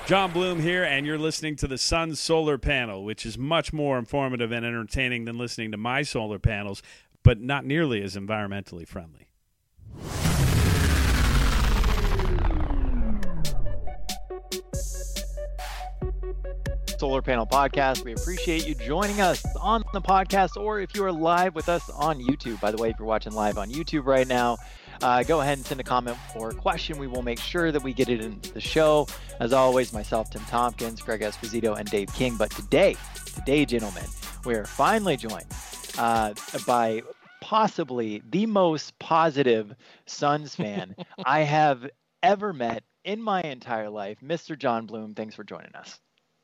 John Bloom here, and you're listening to the Sun's Solar Panel, which is much more informative and entertaining than listening to my solar panels, but not nearly as environmentally friendly. Solar Panel Podcast. We appreciate you joining us on the podcast, or if you are live with us on YouTube. By the way, if you're watching live on YouTube right now, go ahead and send a comment or a question. We will make sure that we get it into the show. As always, myself, Tim Tompkins, Greg Esposito, and Dave King. But today, gentlemen, we are finally joined by possibly the most positive Suns fan I have ever met in my entire life, Mr. John Bloom. Thanks for joining us.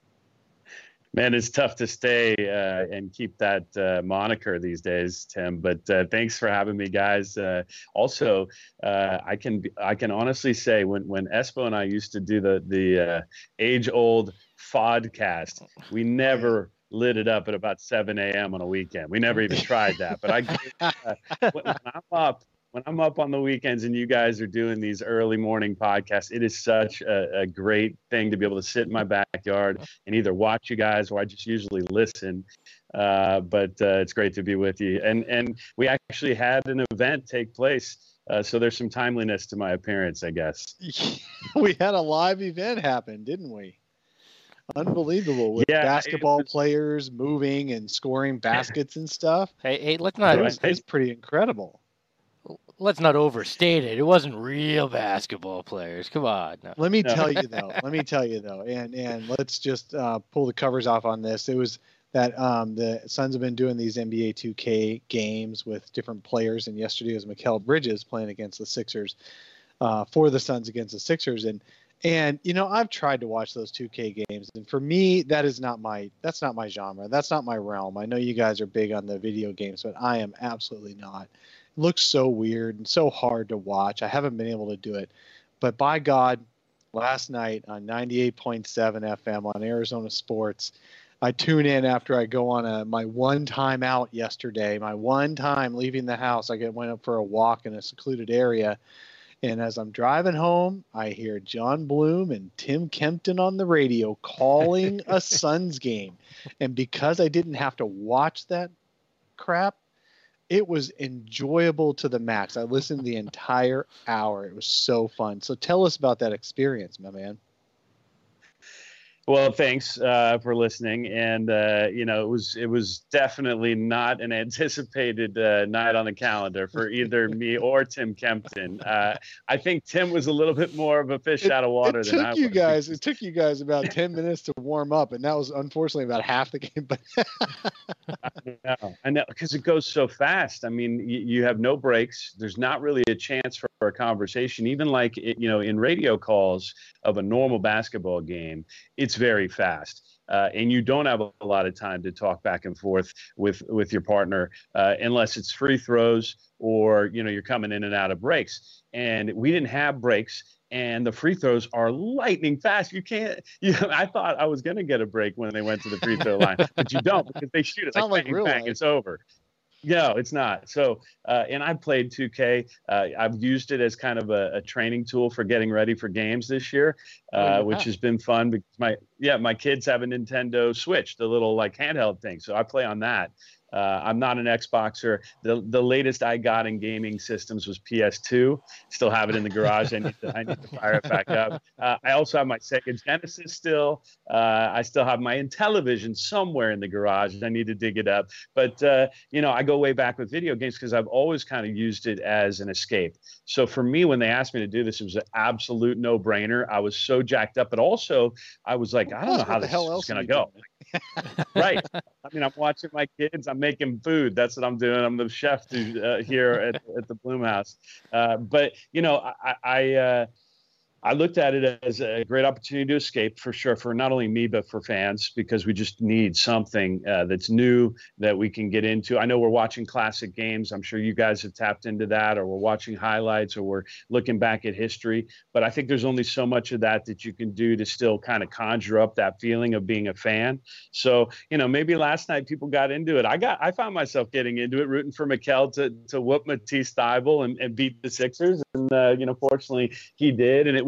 Man, it's tough to stay and keep that moniker these days, Tim. But thanks for having me, guys. Also, I can honestly say when Espo and I used to do the age-old Fodcast, we never lit it up at about 7 a.m. on a weekend. We never even tried that. But when I'm up on the weekends and you guys are doing these early morning podcasts, it is such a great thing to be able to sit in my backyard and either watch you guys or I just usually listen. But it's great to be with you. And we actually had an event take place. So there's some timeliness to my appearance, I guess. We had a live event happen, didn't we? Unbelievable, with basketball players moving and scoring baskets and stuff. Hey, let's not. It was pretty incredible. Let's not overstate it. It wasn't real basketball players. Come on. No. Let me tell you though, and let's just pull the covers off on this. It was that the Suns have been doing these NBA 2K games with different players, and yesterday was Mikal Bridges playing against the Sixers for the Suns against the Sixers, and you know, I've tried to watch those 2K games, and for me, that's not my genre. That's not my realm. I know you guys are big on the video games, but I am absolutely not. It looks so weird and so hard to watch. I haven't been able to do it. But by God, last night on 98.7 FM on Arizona Sports, I tune in after I go on my one time out yesterday, my one time leaving the house. I went up for a walk in a secluded area. And as I'm driving home, I hear John Bloom and Tim Kempton on the radio calling a Suns game. And because I didn't have to watch that crap, it was enjoyable to the max. I listened the entire hour. It was so fun. So tell us about that experience, my man. Well, thanks for listening. And, you know, it was definitely not an anticipated night on the calendar for either me or Tim Kempton. I think Tim was a little bit more of a fish out of water than I was. It took you guys about 10 minutes to warm up, and that was unfortunately about half the game. But I know, because it goes so fast. I mean, you have no breaks. There's not really a chance for a conversation, even like, you know, in radio calls of a normal basketball game. It's very fast, and you don't have a lot of time to talk back and forth with your partner unless it's free throws or, you know, you're coming in and out of breaks. And we didn't have breaks, and the free throws are lightning fast. I thought I was going to get a break when they went to the free throw line, but you don't, because they shoot it like bang, bang, it's over. No, it's not. So, and I've played 2K. I've used it as kind of a training tool for getting ready for games this year, which has been fun because my kids have a Nintendo Switch, the little like handheld thing. So I play on that. I'm not an Xboxer. The latest I got in gaming systems was PS2. Still have it in the garage. I need to fire it back up. I also have my Sega Genesis still. I still have my Intellivision somewhere in the garage. I need to dig it up. But, you know, I go way back with video games because I've always kind of used it as an escape. So for me, when they asked me to do this, it was an absolute no-brainer. I was so jacked up. But also, I was like, I don't know how this is going to go. Right. I mean, I'm watching my kids. I'm making food. That's what I'm doing. I'm the chef here at the Bloom House. But, you know, I looked at it as a great opportunity to escape, for sure, for not only me, but for fans, because we just need something that's new that we can get into. I know we're watching classic games. I'm sure you guys have tapped into that, or we're watching highlights, or we're looking back at history. But I think there's only so much of that you can do to still kind of conjure up that feeling of being a fan. So, you know, maybe last night people got into it. I found myself getting into it, rooting for Mikal to whoop Matisse Thybulle and beat the Sixers. And, you know, fortunately he did. And it was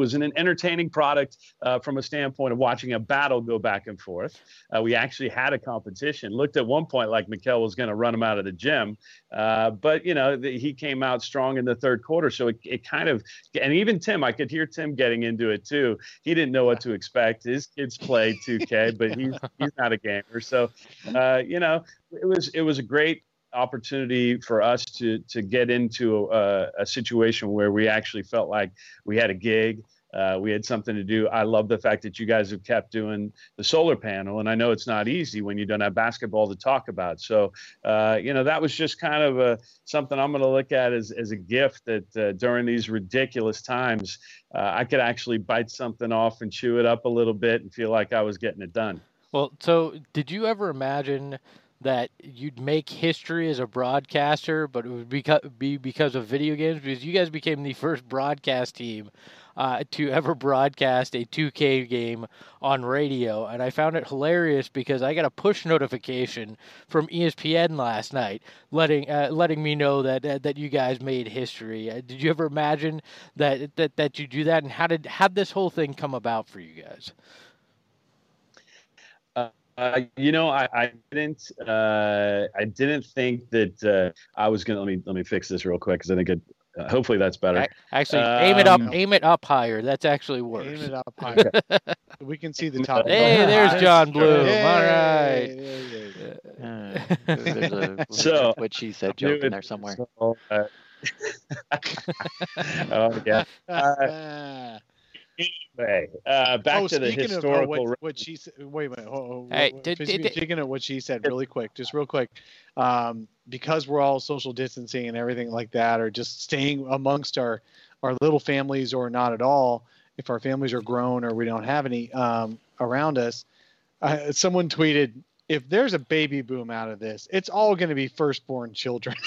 was an entertaining product from a standpoint of watching a battle go back and forth. We actually had a competition. Looked at one point like Mikel was going to run him out of the gym, but he came out strong in the third quarter. So it kind of, and even Tim, I could hear Tim getting into it too. He didn't know what to expect. His kids play 2K, but he's not a gamer. So it was a great opportunity for us to get into a situation where we actually felt like we had a gig. We had something to do. I love the fact that you guys have kept doing the solar panel, and I know it's not easy when you don't have basketball to talk about. So, that was just kind of something I'm going to look at as a gift that during these ridiculous times, I could actually bite something off and chew it up a little bit and feel like I was getting it done. Well, so did you ever imagine that you'd make history as a broadcaster, but it would be because of video games? Because you guys became the first broadcast team to ever broadcast a 2K game on radio. And I found it hilarious because I got a push notification from ESPN last night letting me know that you guys made history. Did you ever imagine that you do that? And how'd this whole thing come about for you guys? I didn't think that I was going to, let me fix this real quick, because I think hopefully that's better. Actually, aim it up higher. That's actually worse. Aim it up higher. We can see the top. Hey, there's John Bloom. All right. There's a So, what she said joke in there somewhere. So, oh yeah. Anyway, back to the historical. What she said. Wait a minute. Hey, speaking of what she said, real quick, because we're all social distancing and everything like that, or just staying amongst our little families, or not at all, if our families are grown or we don't have any around us. Someone tweeted, if there's a baby boom out of this, it's all going to be firstborn children.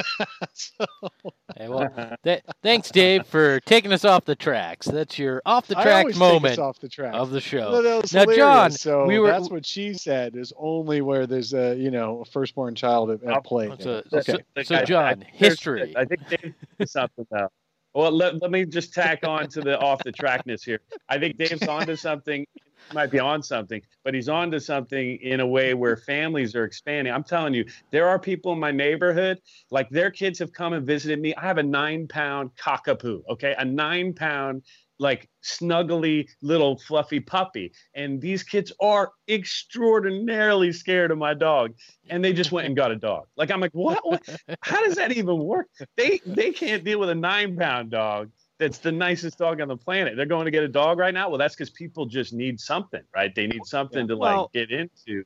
Hey, well, thanks, Dave, for taking us off the tracks. That's your off the track moment off the track of the show. No, now, John, so that's what she said. Is only where there's a firstborn child at play. So John, history. I think Dave did something though. Well, let me just tack on to the off the trackness here. I think Dave's onto something. He might be on something, but he's onto something in a way where families are expanding. I'm telling you, there are people in my neighborhood, like their kids have come and visited me. I have a 9-pound cockapoo, okay? A 9-pound, like snuggly little fluffy puppy. And these kids are extraordinarily scared of my dog. And they just went and got a dog. Like, I'm like, what? How does that even work? They can't deal with a 9-pound dog. That's the nicest dog on the planet. They're going to get a dog right now. Well, that's because people just need something, right? They need something to get into.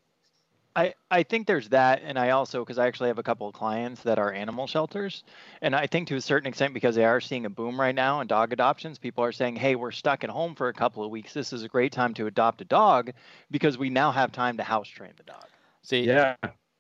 I think there's that. And I also, because I actually have a couple of clients that are animal shelters. And I think to a certain extent, because they are seeing a boom right now in dog adoptions, people are saying, hey, we're stuck at home for a couple of weeks. This is a great time to adopt a dog because we now have time to house train the dog. See, yeah,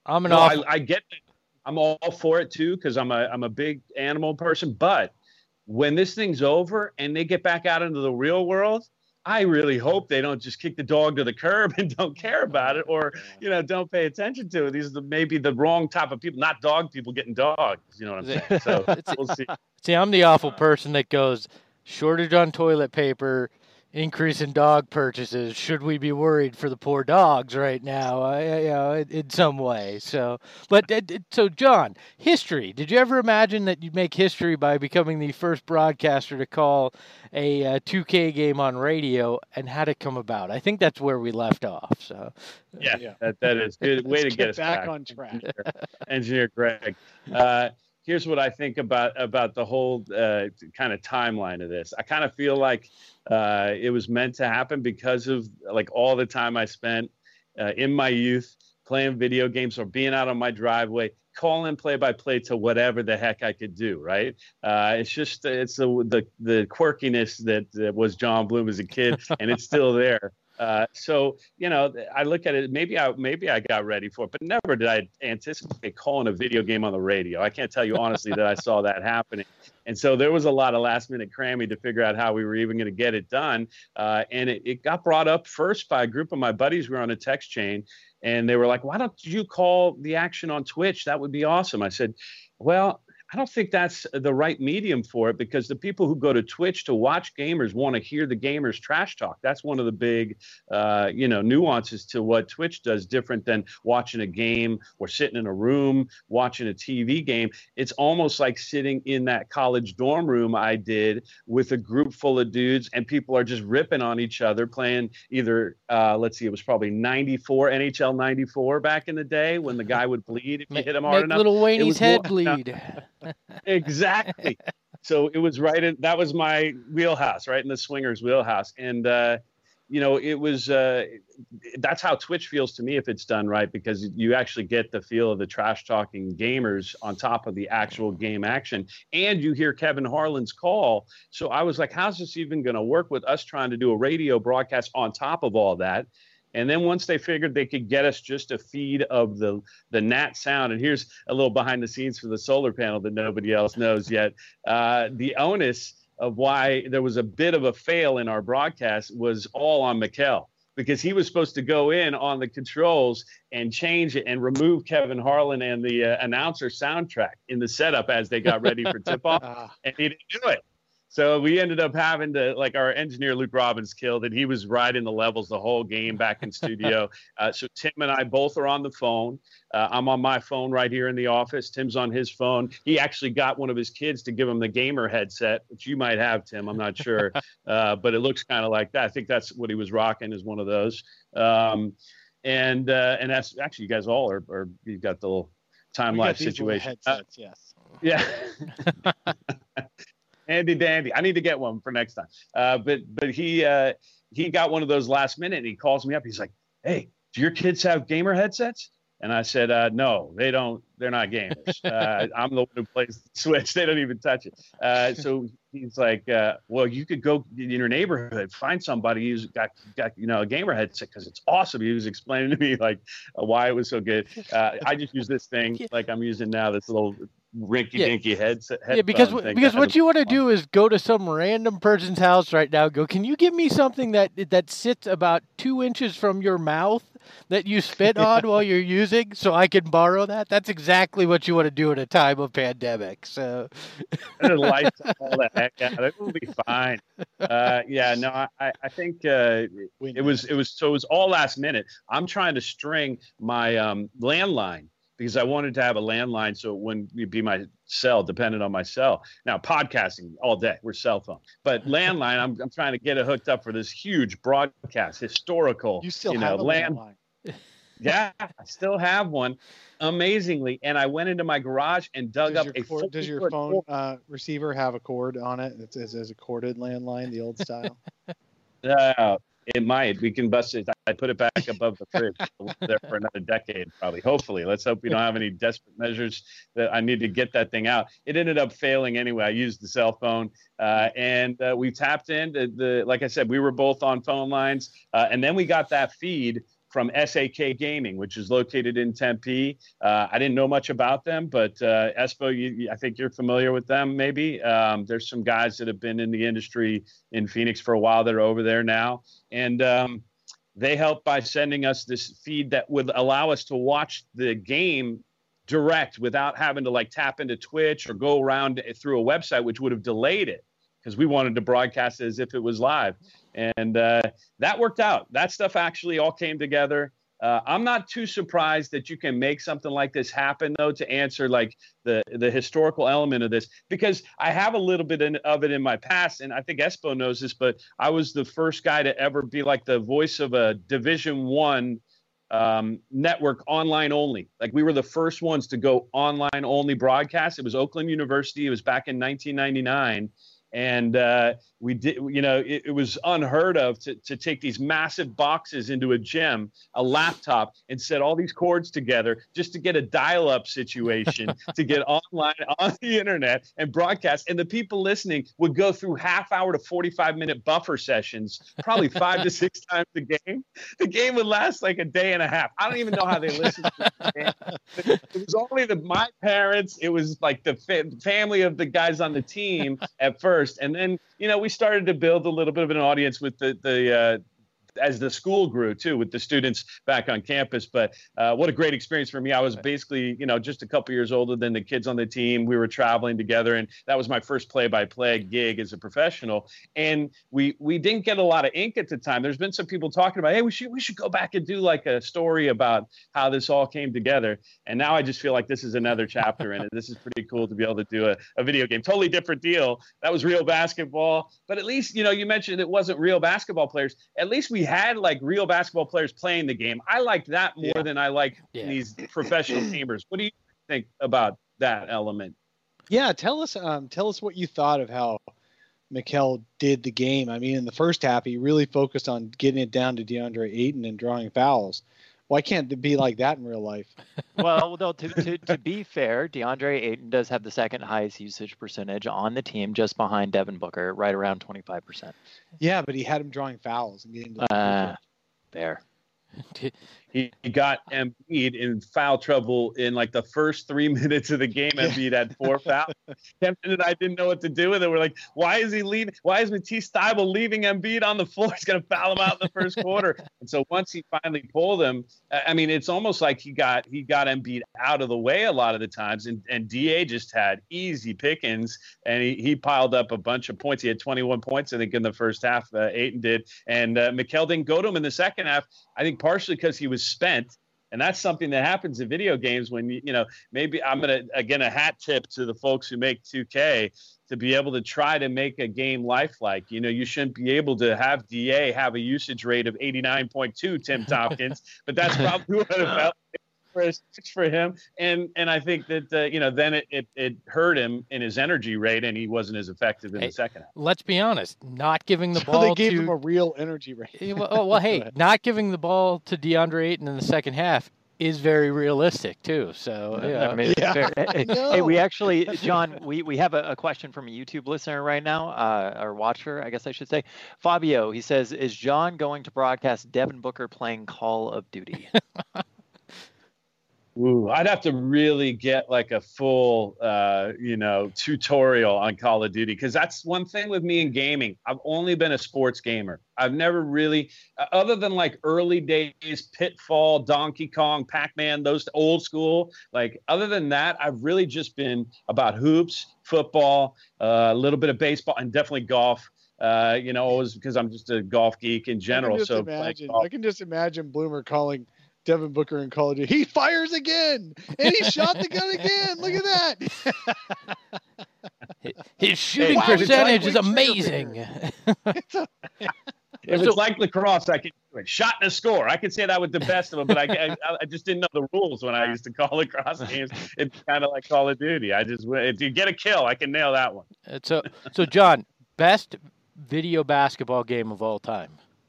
I get that. I'm all for it too, because I'm a big animal person. But when this thing's over and they get back out into the real world, I really hope they don't just kick the dog to the curb and don't care about it, or don't pay attention to it. These are maybe the wrong type of people, not dog people getting dogs. You know what I'm saying? So we'll see. See, I'm the awful person that goes shortage on toilet paper, increase in dog purchases. Should we be worried for the poor dogs right now? In some way. So, so John, history. Did you ever imagine that you'd make history by becoming the first broadcaster to call a 2K game on radio, and how did it come about? I think that's where we left off. So, yeah. That is good way to get us back on track. Engineer Greg. Here's what I think about the whole kind of timeline of this. I kind of feel like it was meant to happen because of like all the time I spent in my youth playing video games or being out on my driveway, calling play-by-play to whatever the heck I could do. Right? It's the quirkiness that was John Bloom as a kid, and it's still there. So I look at it. Maybe I got ready for it, but never did I anticipate calling a video game on the radio. I can't tell you honestly that I saw that happening. And so there was a lot of last minute cramming to figure out how we were even going to get it done. And it got brought up first by a group of my buddies. We were on a text chain, and they were like, "Why don't you call the action on Twitch? That would be awesome." I said, "Well, I don't think that's the right medium for it, because the people who go to Twitch to watch gamers want to hear the gamers trash talk. That's one of the big, nuances to what Twitch does, different than watching a game or sitting in a room watching a TV game. It's almost like sitting in that college dorm room I did with a group full of dudes, and people are just ripping on each other, playing either, it was probably NHL 94 back in the day, when the guy would bleed if you hit him hard enough. Little Wayne's head bleed. Exactly. So it was that was my wheelhouse, right in the swingers wheelhouse. And, it was, that's how Twitch feels to me if it's done right, because you actually get the feel of the trash talking gamers on top of the actual game action. And you hear Kevin Harlan's call. So I was like, how's this even going to work with us trying to do a radio broadcast on top of all that? And then once they figured they could get us just a feed of the Nat sound, and here's a little behind the scenes for the solar panel that nobody else knows yet. The onus of why there was a bit of a fail in our broadcast was all on Mikkel, because he was supposed to go in on the controls and change it and remove Kevin Harlan and the announcer soundtrack in the setup as they got ready for tip-off, and he didn't do it. So we ended up having to, our engineer, Luke Robbins, killed it. He was riding the levels the whole game back in studio. So Tim and I both are on the phone. I'm on my phone right here in the office. Tim's on his phone. He actually got one of his kids to give him the gamer headset, which you might have, Tim. I'm not sure. But it looks kind of like that. I think that's what he was rocking, is one of those. And that's actually, you guys all are you've got the little time-lapse situation. Headsets, yes. Yeah. Handy dandy. I need to get one for next time. But he got one of those last minute, and he calls me up. He's like, "Hey, do your kids have gamer headsets?" And I said, "No, they don't. They're not gamers. I'm the one who plays the Switch. They don't even touch it." So he's like, "Well, you could go in your neighborhood, find somebody who's got a gamer headset, because it's awesome." He was explaining to me why it was so good. I just use this thing like I'm using now, this little rinky-dinky headset. Yeah, because what you want to do is go to some random person's house right now. Go, can you give me something that sits about 2 inches from your mouth that you spit on while you're using, so I can borrow that? That's exactly what you want to do at a time of pandemic. So lights all the heck out. It will be fine. I think it was all last minute. I'm trying to string my landline, because I wanted to have a landline so it wouldn't be my cell, dependent on my cell. Now, podcasting all day, we're cell phone. But landline, I'm trying to get it hooked up for this huge broadcast, historical. You still have a landline. Yeah, I still have one, amazingly. And I went into my garage and dug up a cord. Does your phone receiver have a cord on it? It's a corded landline, the old style? It might. We can bust it. I put it back above the fridge. It'll live there for another decade, probably. Hopefully. Let's hope we don't have any desperate measures that I need to get that thing out. It ended up failing anyway. I used the cell phone, and we tapped in. Like I said, we were both on phone lines, and then we got that feed from SAK Gaming, which is located in Tempe. I didn't know much about them, but Espo, I think you're familiar with them, maybe. There's some guys that have been in the industry in Phoenix for a while that are over there now. And they helped by sending us this feed that would allow us to watch the game direct without having to tap into Twitch or go around through a website, which would have delayed it, because we wanted to broadcast it as if it was live. And that worked out. That stuff actually all came together. I'm not too surprised that you can make something like this happen, though, to answer the historical element of this, because I have a little bit of it in my past, and I think Espo knows this, but I was the first guy to ever be the voice of a Division I network online only. We were the first ones to go online only broadcast. It was Oakland University. It was back in 1999. And we did, it was unheard of to take these massive boxes into a gym, a laptop, and set all these cords together just to get a dial-up situation to get online on the internet and broadcast. And the people listening would go through half-hour to 45-minute buffer sessions, probably 5 to 6 times a game. The game would last a day and a half. I don't even know how they listened to the game. It was only my parents. It was the family of the guys on the team at first. And then, we started to build a little bit of an audience with the as the school grew too, with the students back on campus. But what a great experience for me. I was basically, just a couple years older than the kids on the team. We were traveling together, and that was my first play-by-play gig as a professional. And we didn't get a lot of ink at the time. There's been some people talking about, hey, we should go back and do like a story about how this all came together. And now I just feel like this is another chapter in it. This is pretty cool to be able to do a video game. Totally different deal. That was real basketball. But at least, you mentioned it wasn't real basketball players. At least we had like real basketball players playing the game. I liked that more than I like these professional gamers. What do you think about that element? Yeah, tell us what you thought of how Mikal did the game. I mean, in the first half, he really focused on getting it down to DeAndre Ayton and drawing fouls. Why can't it be like that in real life? Well, though, to be fair, DeAndre Ayton does have the second highest usage percentage on the team, just behind Devin Booker, right around 25%. Yeah, but he had him drawing fouls and getting to fair. He got Embiid in foul trouble in like the first 3 minutes of the game. Embiid had 4 fouls. Kempton and I didn't know what to do with it. We're like, why is Matisse Thybulle leaving Embiid on the floor? He's going to foul him out in the first quarter. And so once he finally pulled him, I mean, it's almost like he got Embiid out of the way a lot of the times. And DA just had easy pickings, and he piled up a bunch of points. He had 21 points, I think, in the first half. Ayton did. And Mikal didn't go to him in the second half, I think partially because he was spent. And that's something that happens in video games when, maybe I'm going to, again, a hat tip to the folks who make 2K to be able to try to make a game lifelike. You shouldn't be able to have DA have a usage rate of 89.2, Tim Tompkins, but that's probably what it felt for him. And I think that, then it hurt him in his energy rate, and he wasn't as effective in the second half. Let's be honest, not giving the so ball they gave him a real energy rate. well, hey, not giving the ball to DeAndre Ayton in the second half is very realistic too. So I mean, hey, we actually, John, we have a question from a YouTube listener right now, or watcher, I guess I should say. Fabio, he says, is John going to broadcast Devin Booker playing Call of Duty? Ooh, I'd have to really get like a full, tutorial on Call of Duty, because that's one thing with me in gaming. I've only been a sports gamer. I've never really, other than like early days, Pitfall, Donkey Kong, Pac-Man, those old school, like other than that, I've really just been about hoops, football, a little bit of baseball, and definitely golf. Always because I'm just a golf geek in general. I can just imagine Bloomer calling Devin Booker in Call of Duty. He fires again, and he shot the gun again. Look at that. His shooting percentage is amazing. If it's like lacrosse, I can do it. Shot and a score. I could say that with the best of them, but I just didn't know the rules when I used to call lacrosse games. It's kind of like Call of Duty. If you get a kill, I can nail that one. So John, best video basketball game of all time.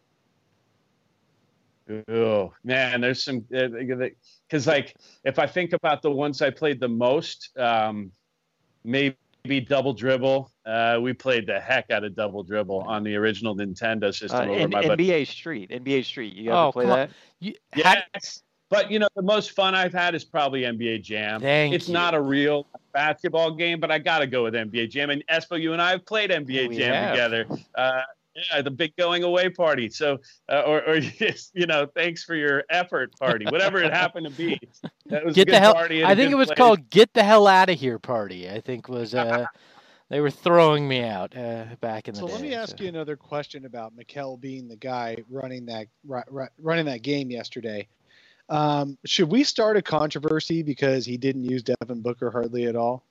Oh man, there's some, because like if I think about the ones I played the most, maybe Double Dribble. We played the heck out of Double Dribble on the original Nintendo system. NBA Street. You ever play that? Yes. But the most fun I've had is probably NBA Jam. It's not a real basketball game, but I got to go with NBA Jam. And Espo, you and I have played NBA Jam together. Yeah, the big going away party. So, or just, thanks for your effort party, whatever it happened to be. That was get a the hell. party. I think it was called "Get the Hell Out of Here" party. I think was they were throwing me out back in the day. So let me ask you another question about Mikal being the guy running that game yesterday. Should we start a controversy because he didn't use Devin Booker hardly at all?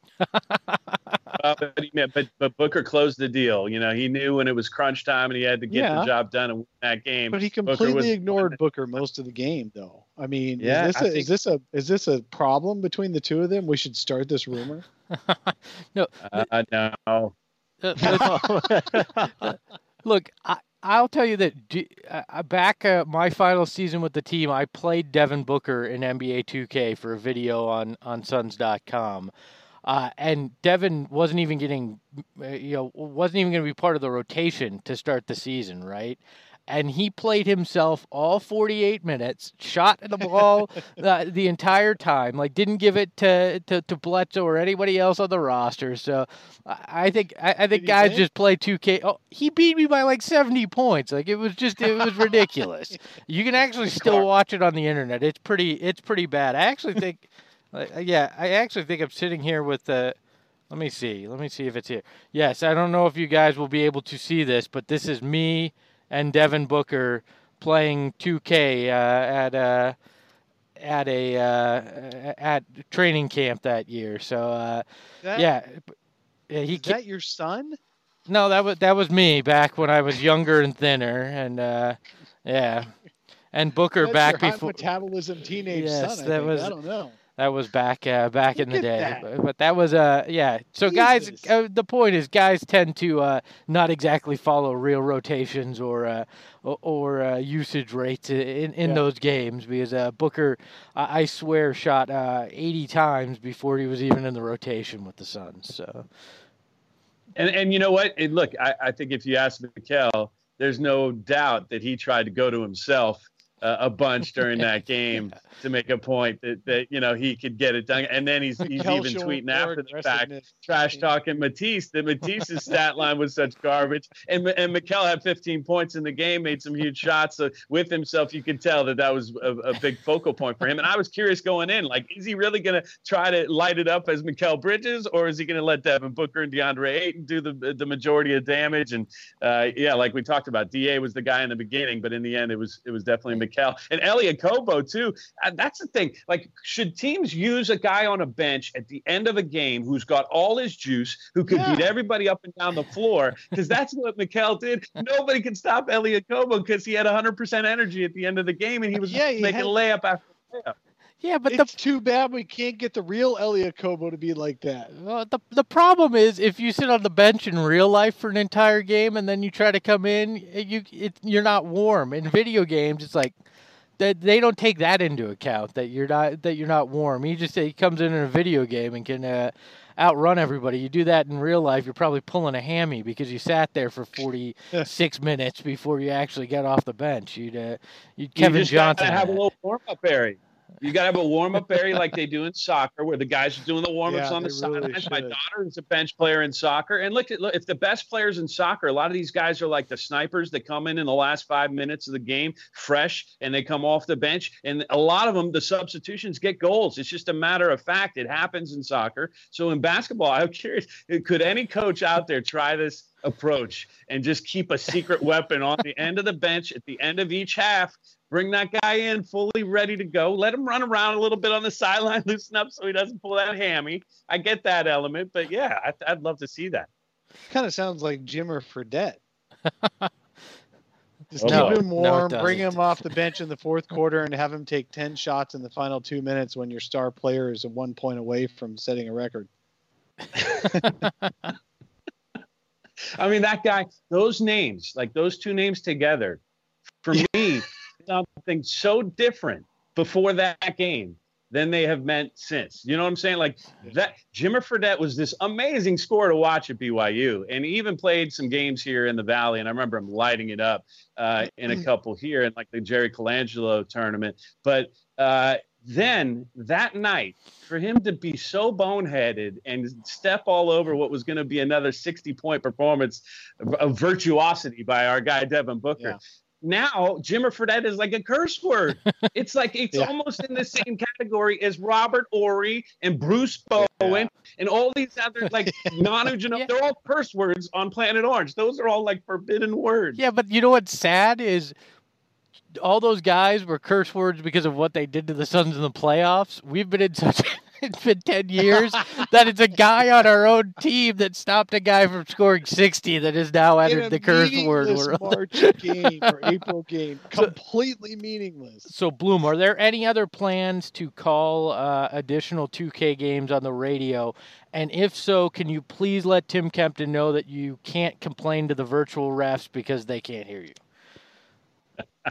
But Booker closed the deal. He knew when it was crunch time and he had to get the job done and win that game. But he completely ignored Booker most of the game, though. I mean, is this a problem between the two of them? We should start this rumor. No. No. Look, I'll tell you that back my final season with the team, I played Devin Booker in NBA 2K for a video on Suns.com. And Devin wasn't even getting, wasn't even going to be part of the rotation to start the season, right? and he played himself all 48 minutes, shot the ball the entire time, like didn't give it to Bledsoe or anybody else on the roster. So I think guys just play 2K. Oh, he beat me by like 70 points. Like it was ridiculous. You can actually still watch it on the internet. It's pretty bad. I actually think I'm sitting here with the. Let me see if it's here. Yes, I don't know if you guys will be able to see this, but this is me and Devin Booker playing 2K at training camp that year. So is that your son? No, that was me back when I was younger and thinner, and and Booker That's back your before high metabolism teenage Yes, son. I don't know. That was back in the day, that. but that was So guys, the point is, guys tend to not exactly follow real rotations or usage rates in those games, because Booker, I swear, shot 80 times before he was even in the rotation with the Suns. So, and you know what? Look, I think if you ask Mikal, there's no doubt that he tried to go to himself a bunch during that game to make a point that he could get it done. And then he's even tweeting after the fact, trash talking Matisse, that Matisse's stat line was such garbage. And Mikal had 15 points in the game, made some huge shots with himself. You could tell that was a big focal point for him. And I was curious going in, like, is he really going to try to light it up as Mikal Bridges, or is he going to let Devin Booker and DeAndre Ayton do the majority of damage? And like we talked about, DA was the guy in the beginning, but in the end, it was definitely Mikal. And Elie Okobo too. That's the thing. Like, should teams use a guy on a bench at the end of a game who's got all his juice, who could beat everybody up and down the floor? Because that's what Mikal did. Nobody could stop Elie Okobo because he had 100% energy at the end of the game, and he was making layup after layup. Yeah, but it's too bad we can't get the real Elie Okobo to be like that. Well, the problem is, if you sit on the bench in real life for an entire game and then you try to come in, you're not warm. In video games, it's like they don't take that into account, that you're not warm. He comes in a video game and can outrun everybody. You do that in real life, you're probably pulling a hammy because you sat there for 46 minutes before you actually got off the bench. You'd Kevin Johnson. You have a little warm-up area. You got to have a warm-up area like they do in soccer, where the guys are doing the warm-ups on the sidelines. My daughter is a bench player in soccer. And look, if the best players in soccer, a lot of these guys are like the snipers that come in the last 5 minutes of the game fresh, and they come off the bench. And a lot of them, the substitutions get goals. It's just a matter of fact. It happens in soccer. So in basketball, I'm curious, could any coach out there try this approach and just keep a secret weapon on the end of the bench at the end of each half? Bring that guy in fully ready to go. Let him run around a little bit on the sideline, loosen up so he doesn't pull that hammy. I get that element, but yeah, I'd love to see that. Kind of sounds like Jimmer Fredette. Just keep him warm, bring him off the bench in the fourth quarter, and have him take 10 shots in the final 2 minutes when your star player is 1 point away from setting a record. I mean, that guy, those names, like those two names together, for me, something so different before that game than they have meant since. You know what I'm saying? Like, that Jimmer Fredette was this amazing scorer to watch at BYU, and he even played some games here in the Valley, and I remember him lighting it up in a couple here in like the Jerry Colangelo tournament. But then that night, for him to be so boneheaded and step all over what was going to be another 60-point performance of virtuosity by our guy Devin Booker. Yeah. Now, Jimmer Fredette is like a curse word. It's like it's almost in the same category as Robert Horry and Bruce Bowen and all these other like Manu Ginobili. They're all curse words on Planet Orange. Those are all like forbidden words. Yeah, but you know what's sad is all those guys were curse words because of what they did to the Suns in the playoffs. We've been in such it's been 10 years that it's a guy on our own team that stopped a guy from scoring 60 that has now entered the curse word world. March game or April game, completely meaningless. So, Bloom, are there any other plans to call additional 2K games on the radio? And if so, can you please let Tim Kempton know that you can't complain to the virtual refs because they can't hear you?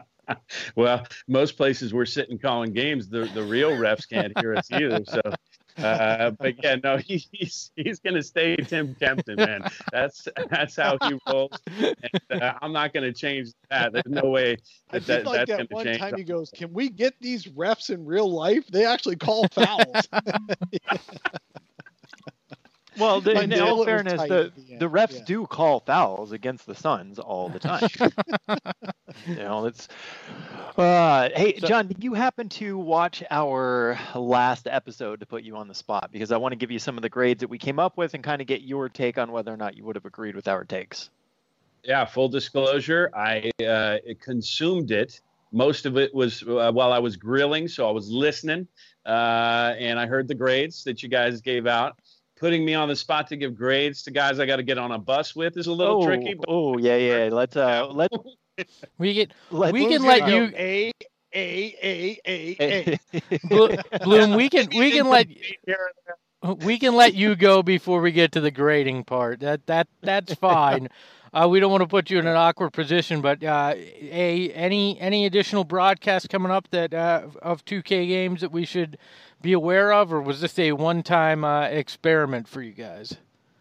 Well, most places we're sitting calling games, the real refs can't hear us either. So But yeah, no, he's going to stay Tim Kempton, man. That's how he rolls. And, I'm not going to change that. There's no way I that's did like going that to one change. time he goes, "Can we get these refs in real life? They actually call fouls." Well, in Until it all was fairness, tight the at the end, refs yeah. do call fouls against the Suns all the time. It's. Hey, So- John, did you happen to watch our last episode to put you on the spot? Because I want to give you some of the grades that we came up with and kind of get your take on whether or not you would have agreed with our takes. Yeah, full disclosure, I consumed it. Most of it was while I was grilling, so I was listening, and I heard the grades that you guys gave out. Putting me on the spot to give grades to guys I got to get on a bus with is a little tricky. But Oh, yeah. Let's We can let let you Bloom. We can let you go before we get to the grading part. That's fine. We don't want to put you in an awkward position, but any additional broadcasts coming up that of 2K games that we should be aware of, or was this a one-time experiment for you guys?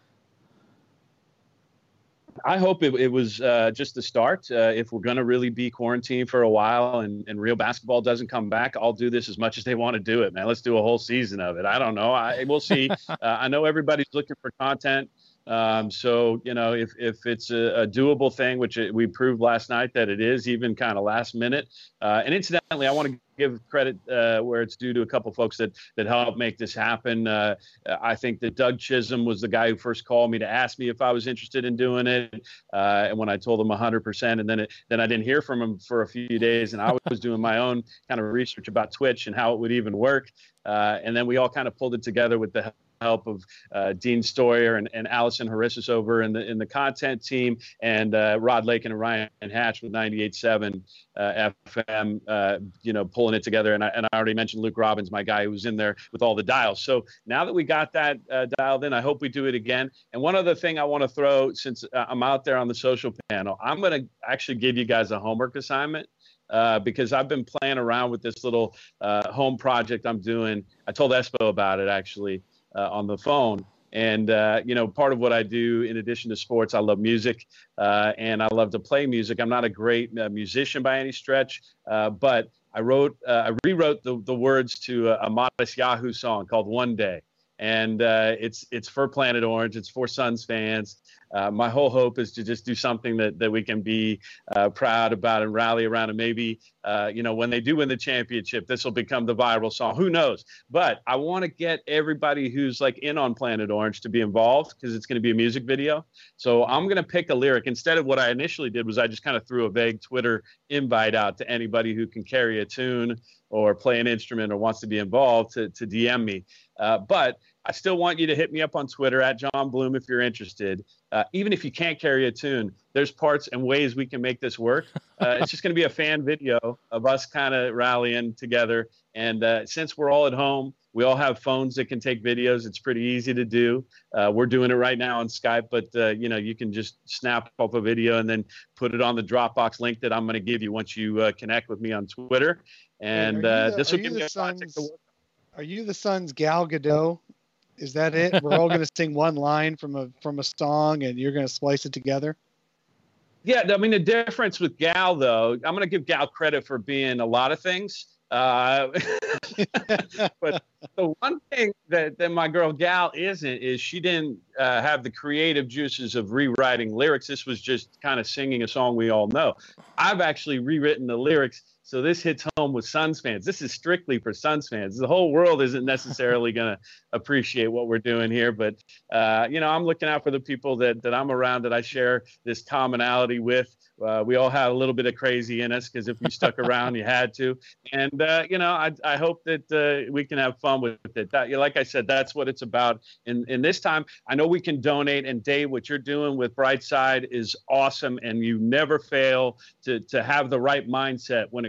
I hope it was just the start. If we're going to really be quarantined for a while and real basketball doesn't come back, I'll do this as much as they want to do it, man. Let's do a whole season of it. I don't know. We'll see. I know everybody's looking for content. So, if it's a doable thing, which we proved last night that it is, even kind of last minute. And incidentally, I want to give credit where it's due to a couple folks that helped make this happen. I think that Doug Chisholm was the guy who first called me to ask me if I was interested in doing it. And when I told him 100%, and then I didn't hear from him for a few days, and I was doing my own kind of research about Twitch and how it would even work. And then we all kind of pulled it together with the help of Dean Stoyer and Allison Harissis over in the content team, and Rod Lakin and Ryan Hatch with 98.7 FM, pulling it together. And I already mentioned Luke Robbins, my guy who was in there with all the dials. So now that we got that dialed in, I hope we do it again. And one other thing I want to throw, since I'm out there on the social panel, I'm going to actually give you guys a homework assignment. Because I've been playing around with this little home project I'm doing. I told Espo about it, actually, on the phone. And, part of what I do in addition to sports, I love music and I love to play music. I'm not a great musician by any stretch, but I rewrote the words to a Modest Yahoo song called One Day. And it's for Planet Orange. It's for Suns fans. My whole hope is to just do something that we can be proud about and rally around. And maybe, when they do win the championship, this will become the viral song. Who knows? But I want to get everybody who's like in on Planet Orange to be involved, because it's going to be a music video. So I'm going to pick a lyric. Instead of what I initially did was I just kind of threw a vague Twitter invite out to anybody who can carry a tune or play an instrument or wants to be involved to DM me. But I still want you to hit me up on Twitter at John Bloom if you're interested. Even if you can't carry a tune, there's parts and ways we can make this work. It's just going to be a fan video of us kind of rallying together. And since we're all at home, we all have phones that can take videos. It's pretty easy to do. We're doing it right now on Skype, but you can just snap up a video and then put it on the Dropbox link that I'm going to give you once you connect with me on Twitter. And this will give me a context to work. Are you the Suns' Gal Gadot? Is that it? We're all going to sing one line from a song, and you're going to splice it together? Yeah, I mean, the difference with Gal, though, I'm going to give Gal credit for being a lot of things. But the one thing that my girl Gal isn't is she didn't have the creative juices of rewriting lyrics. This was just kind of singing a song we all know. I've actually rewritten the lyrics. So this hits home with Suns fans. This is strictly for Suns fans. The whole world isn't necessarily going to appreciate what we're doing here. But, I'm looking out for the people that I'm around, that I share this commonality with. We all had a little bit of crazy in us, because if you stuck around, you had to. And, I hope that we can have fun with it. Like I said, that's what it's about. In this time, I know we can donate. And Dave, what you're doing with Brightside is awesome. And you never fail to have the right mindset when it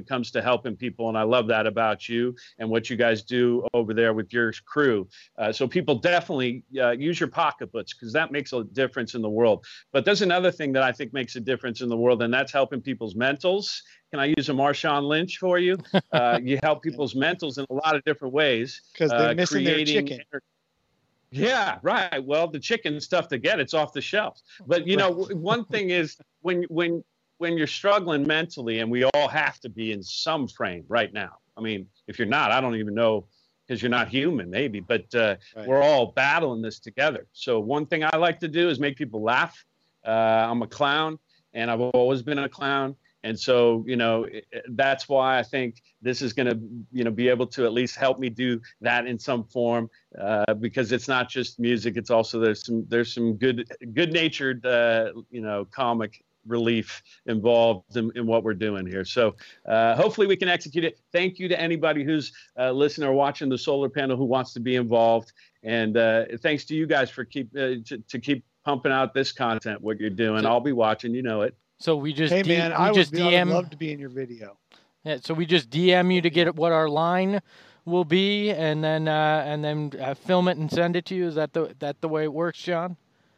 it comes to helping people. And I love that about you and what you guys do over there with your crew. So people definitely use your pocketbooks, because that makes a difference in the world. But there's another thing that I think makes a difference in the world, and that's helping people's mentals. Can I use a Marshawn Lynch for you? You help people's mentals in a lot of different ways. Because they're missing their chicken. Yeah, right. Well, the chicken's tough to get. It's off the shelves. But, you know, one thing is when you're struggling mentally, and we all have to be in some frame right now. I mean, if you're not, I don't even know, because you're not human, maybe. But we're all battling this together. So one thing I like to do is make people laugh. I'm a clown, and I've always been a clown. And so, you know, that's why I think this is going to, you know, be able to at least help me do that in some form, because it's not just music. It's also there's some good-natured, you know, comic relief involved in what we're doing here. So hopefully we can execute it. Thank you to anybody who's listening or watching the Solar Panel who wants to be involved. And thanks to you guys for keep pumping out this content, what you're doing. I'll be watching, you know it. So we just I would love to be in your video. Yeah, so we just DM you to get what our line will be, and then film it and send it to you. Is that the way it works, John?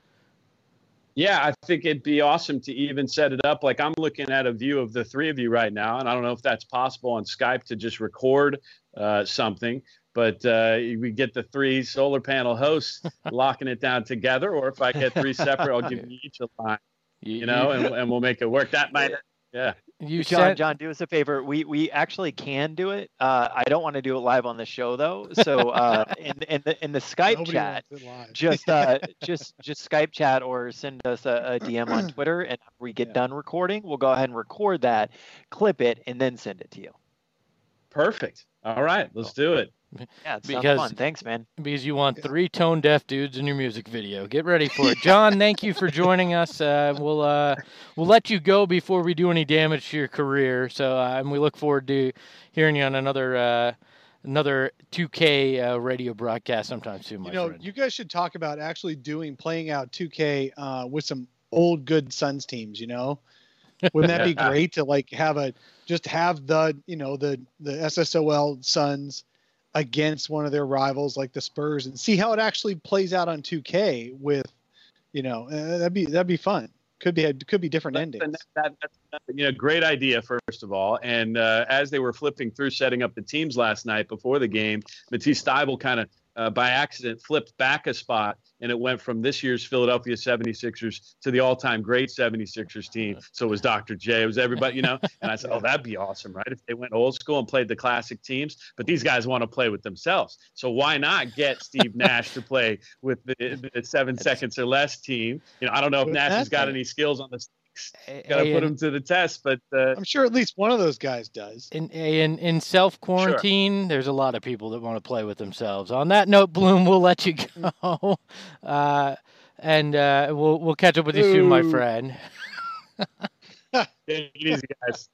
Yeah, I think it'd be awesome to even set it up. Like, I'm looking at a view of the three of you right now, and I don't know if that's possible on Skype to just record something. But we get the three Solar Panel hosts locking it down together, or if I get three separate, I'll give you each a line. You know, and we'll make it work. That might, yeah. John, do us a favor. We actually can do it. I don't want to do it live on the show though. So in the Skype chat, just Skype chat or send us a DM on Twitter, and if we get done recording, we'll go ahead and record that, clip it, and then send it to you. Perfect. All right, let's do it. Yeah, it sounds fun. Thanks, man. Because you want 3 tone deaf dudes in your music video. Get ready for it. John, thank you for joining us. We'll let you go before we do any damage to your career. So and we look forward to hearing you on another 2K radio broadcast sometime soon, my friend. You guys should talk about actually playing out 2K with some old good Suns teams, you know? Wouldn't that be great to like have the SSOL Suns against one of their rivals like the Spurs, and see how it actually plays out on 2K with, that'd be fun. Could be different endings. That's great idea, first of all. And as they were flipping through setting up the teams last night before the game, Matisse Thybulle kind of by accident flipped back a spot, and it went from this year's Philadelphia 76ers to the all-time great 76ers team. So it was Dr. J, it was everybody, and I said, that'd be awesome, right? If they went old school and played the classic teams, but these guys want to play with themselves. So why not get Steve Nash to play with the 7 seconds or less team? I don't know if Nash has got any skills on the got to put him to the test, but I'm sure at least one of those guys does. In self-quarantine, There's a lot of people that want to play with themselves. On that note, Bloom, we'll let you go, and we'll catch up with you soon, my friend. Take it easy, guys.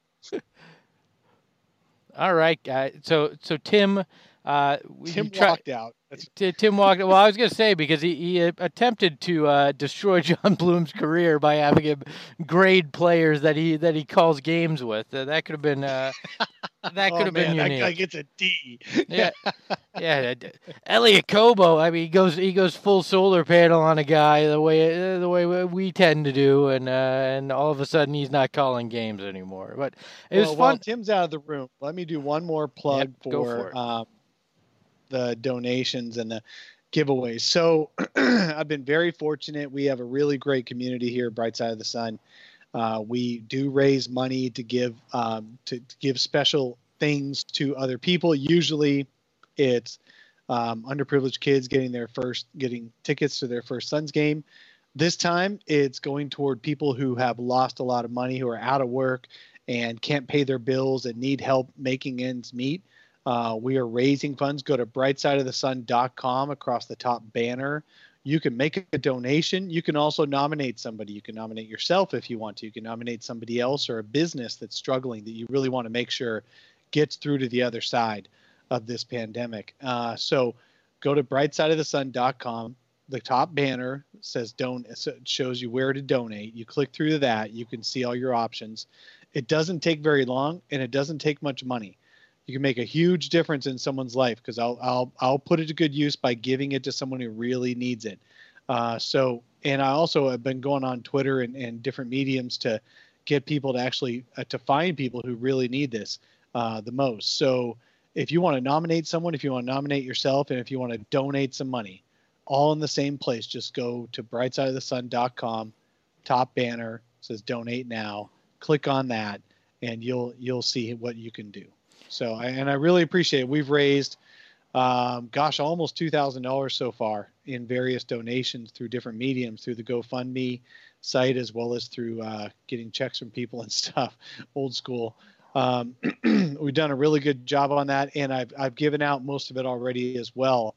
All right, so Tim. Tim walked out. Tim walked. Well, I was going to say, because he attempted to destroy John Bloom's career by having him grade players that he calls games with. That could have been unique. That guy gets a D. Yeah. Elliot Kobo. I mean, he goes full solar panel on a guy the way we tend to do, and all of a sudden he's not calling games anymore. But it was fun. While Tim's out of the room, let me do one more plug for the donations and the giveaways. So I've been very fortunate. We have a really great community here at Bright Side of the Sun. We do raise money to give special things to other people. Usually it's underprivileged kids getting tickets to their first Suns game. This time it's going toward people who have lost a lot of money, who are out of work and can't pay their bills and need help making ends meet. We are raising funds. Go to brightsideofthesun.com. Across the top banner, you can make a donation. You can also nominate somebody. You can nominate yourself if you want to. You can nominate somebody else or a business that's struggling that you really want to make sure gets through to the other side of this pandemic. So go to brightsideofthesun.com. The top banner says shows you where to donate. You click through that. You can see all your options. It doesn't take very long, and it doesn't take much money. You can make a huge difference in someone's life, because I'll put it to good use by giving it to someone who really needs it. And I also have been going on Twitter and different mediums to get people to actually to find people who really need this the most. So if you want to nominate someone, if you want to nominate yourself, and if you want to donate some money, all in the same place, just go to brightsideofthesun.com, top banner says donate now. Click on that, and you'll see what you can do. So I really appreciate it. We've raised, almost $2,000 so far in various donations through different mediums, through the GoFundMe site, as well as through getting checks from people and stuff, old school. We've done a really good job on that, and I've given out most of it already as well.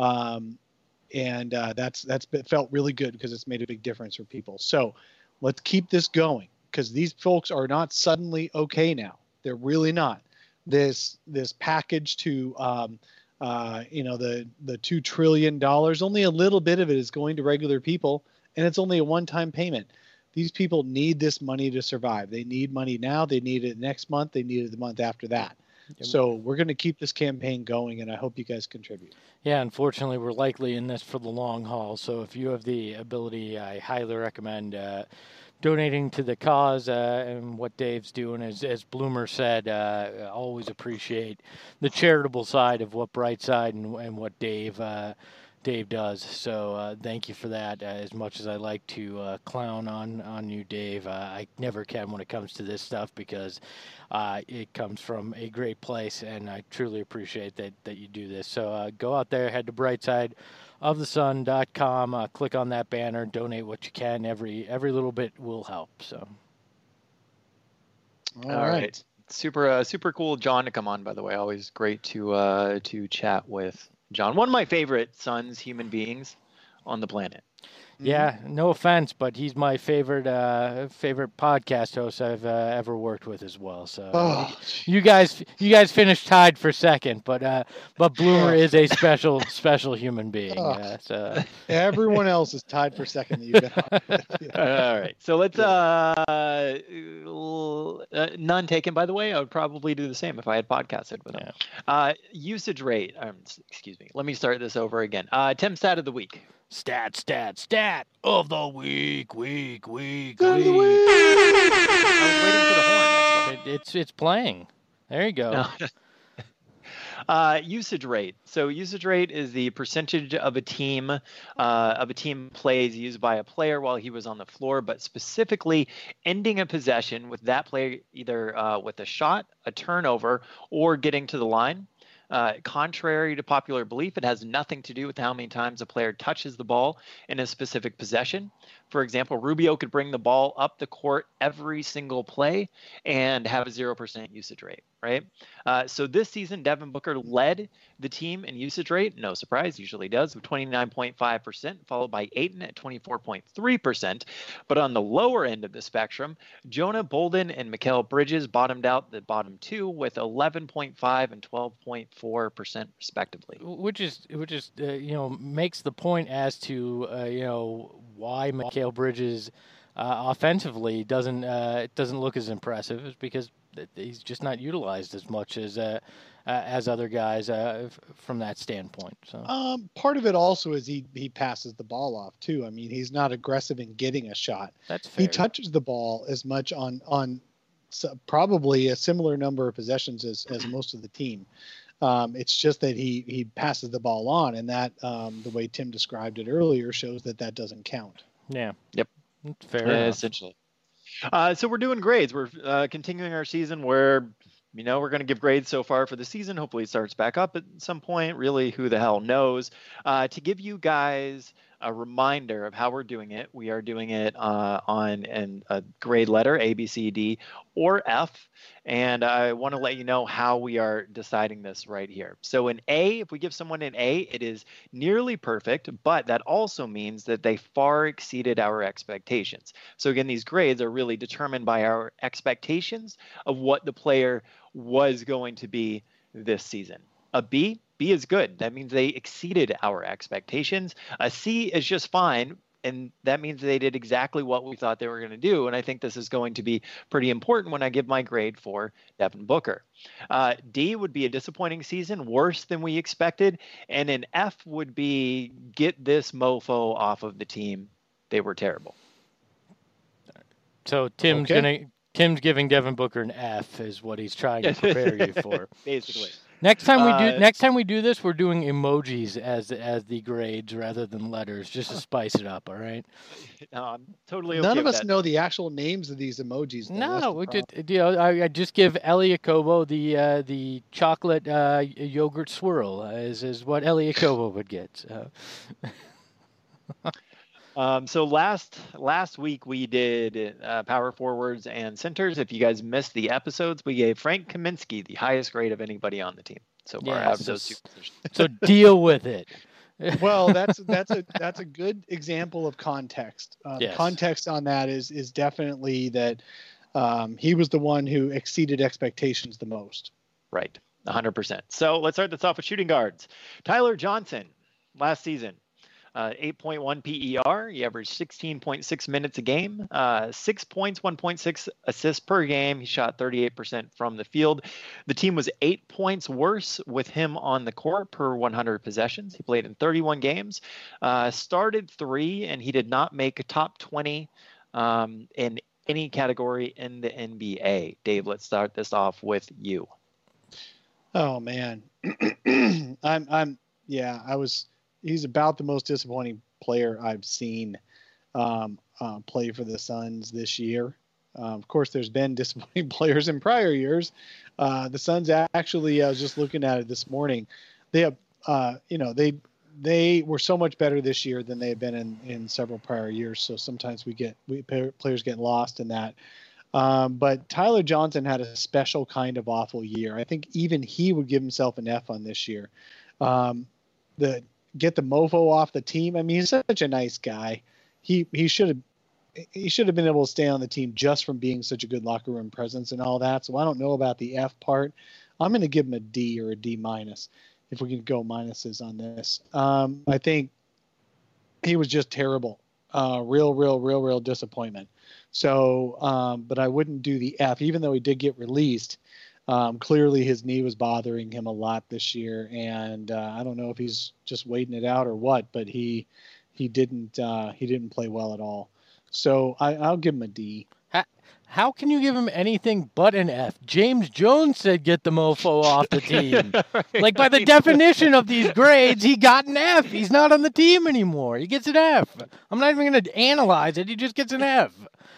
That's felt really good, because it's made a big difference for people. So let's keep this going, because these folks are not suddenly okay now. They're really not. This package to the $2 trillion, only a little bit of it is going to regular people, and it's only a one-time payment. These people need this money to survive. They need money now. They need it next month. They need it the month after that. So we're going to keep this campaign going, and I hope you guys contribute. Yeah, unfortunately, we're likely in this for the long haul. So if you have the ability, I highly recommend donating to the cause and what Dave's doing. As Bloomer said, I always appreciate the charitable side of what Brightside and what Dave does. So thank you for that. As much as I like to clown on you, Dave, I never can when it comes to this stuff, because it comes from a great place, and I truly appreciate that you do this. So go out there, head to brightsideofthesun.com, click on that banner, donate what you can. Every little bit will help. So. All right. Super cool, John, to come on. By the way, always great to chat with John. One of my favorite Suns human beings on the planet. Yeah, no offense, but he's my favorite podcast host I've ever worked with as well. So you guys finished tied for second, but Bloomer is a special human being. So everyone else is tied for second that you've been on with. Yeah. All right, so let's none taken, by the way. I would probably do the same if I had podcasted with him. Yeah. Usage rate. Excuse me. Let me start this over again. Tim, stat of the week. Stat of the week. I was waiting for the horn. It's playing. There you go. Usage rate. So usage rate is the percentage of a team plays used by a player while he was on the floor, but specifically ending a possession with that player either with a shot, a turnover, or getting to the line. Contrary to popular belief, it has nothing to do with how many times a player touches the ball in a specific possession. For example, Rubio could bring the ball up the court every single play and have a 0% usage rate, right? So this season, Devin Booker led the team in usage rate. No surprise, usually does, with 29.5%, followed by Ayton at 24.3%. But on the lower end of the spectrum, Jonah Bolden and Mikal Bridges bottomed out the bottom two with 11.5 and 12.4% respectively. Which is makes the point as to why Mikal Bridges offensively doesn't look as impressive, is because he's just not utilized as much as other guys from that standpoint. So part of it also is he passes the ball off too. I mean, he's not aggressive in getting a shot. That's fair. He touches the ball as much on probably a similar number of possessions as most of the team. It's just that he passes the ball on, and that the way Tim described it earlier shows that doesn't count. Yeah. Yep. That's fair enough. Essentially. So we're doing grades. We're continuing our season where, we're going to give grades so far for the season. Hopefully it starts back up at some point. Really, who the hell knows? To give you guys a reminder of how we're doing it, we are doing it on a grade letter, A, B, C, D, or F. And I want to let you know how we are deciding this right here. So in A, if we give someone an A, it is nearly perfect, but that also means that they far exceeded our expectations. So again, these grades are really determined by our expectations of what the player was going to be this season. A B is good. That means they exceeded our expectations. A C is just fine. And that means they did exactly what we thought they were going to do. And I think this is going to be pretty important when I give my grade for Devin Booker. D would be a disappointing season, worse than we expected. And an F would be get this mofo off of the team. They were terrible. So Tim's giving Devin Booker an F is what he's trying to prepare you for. Basically. Next time we do this, we're doing emojis as the grades rather than letters, just to spice it up. All right. I'm totally okay. None of with us that. know the actual names of these emojis. No, I just give Ellie Jacobo the chocolate yogurt swirl is what Ellie Jacobo would get. So last week we did power forwards and centers. If you guys missed the episodes, we gave Frank Kaminsky the highest grade of anybody on the team so far out of those two positions. So deal with it. Well, that's a good example of context. Yes. Context on that is definitely that he was the one who exceeded expectations the most. Right, 100%. So let's start this off with shooting guards. Tyler Johnson, last season. 8.1 PER. He averaged 16.6 minutes a game, 6 points, 1.6 assists per game. He shot 38% from the field. The team was 8 points worse with him on the court per 100 possessions. He played in 31 games, started 3, and he did not make a top 20 in any category in the NBA. Dave, let's start this off with you. Oh man, he's about the most disappointing player I've seen play for the Suns this year. Of course, there's been disappointing players in prior years. The Suns actually, I was just looking at it this morning. They have, they were so much better this year than they have been in several prior years. So sometimes players get lost in that. But Tyler Johnson had a special kind of awful year. I think even he would give himself an F on this year. Get the mofo off the team. I mean, he's such a nice guy. He should have been able to stay on the team just from being such a good locker room presence and all that. So I don't know about the F part. I'm going to give him a D or a D minus if we can go minuses on this. I think he was just terrible. Real disappointment. So, but I wouldn't do the F, even though he did get released. Clearly his knee was bothering him a lot this year, and I don't know if he's just waiting it out or what, but he didn't play well at all. So I'll give him a D. How can you give him anything but an F? James Jones said get the mofo off the team. Like by the definition of these grades, he got an F. He's not on the team anymore. He gets an F. I'm not even going to analyze it. He just gets an F.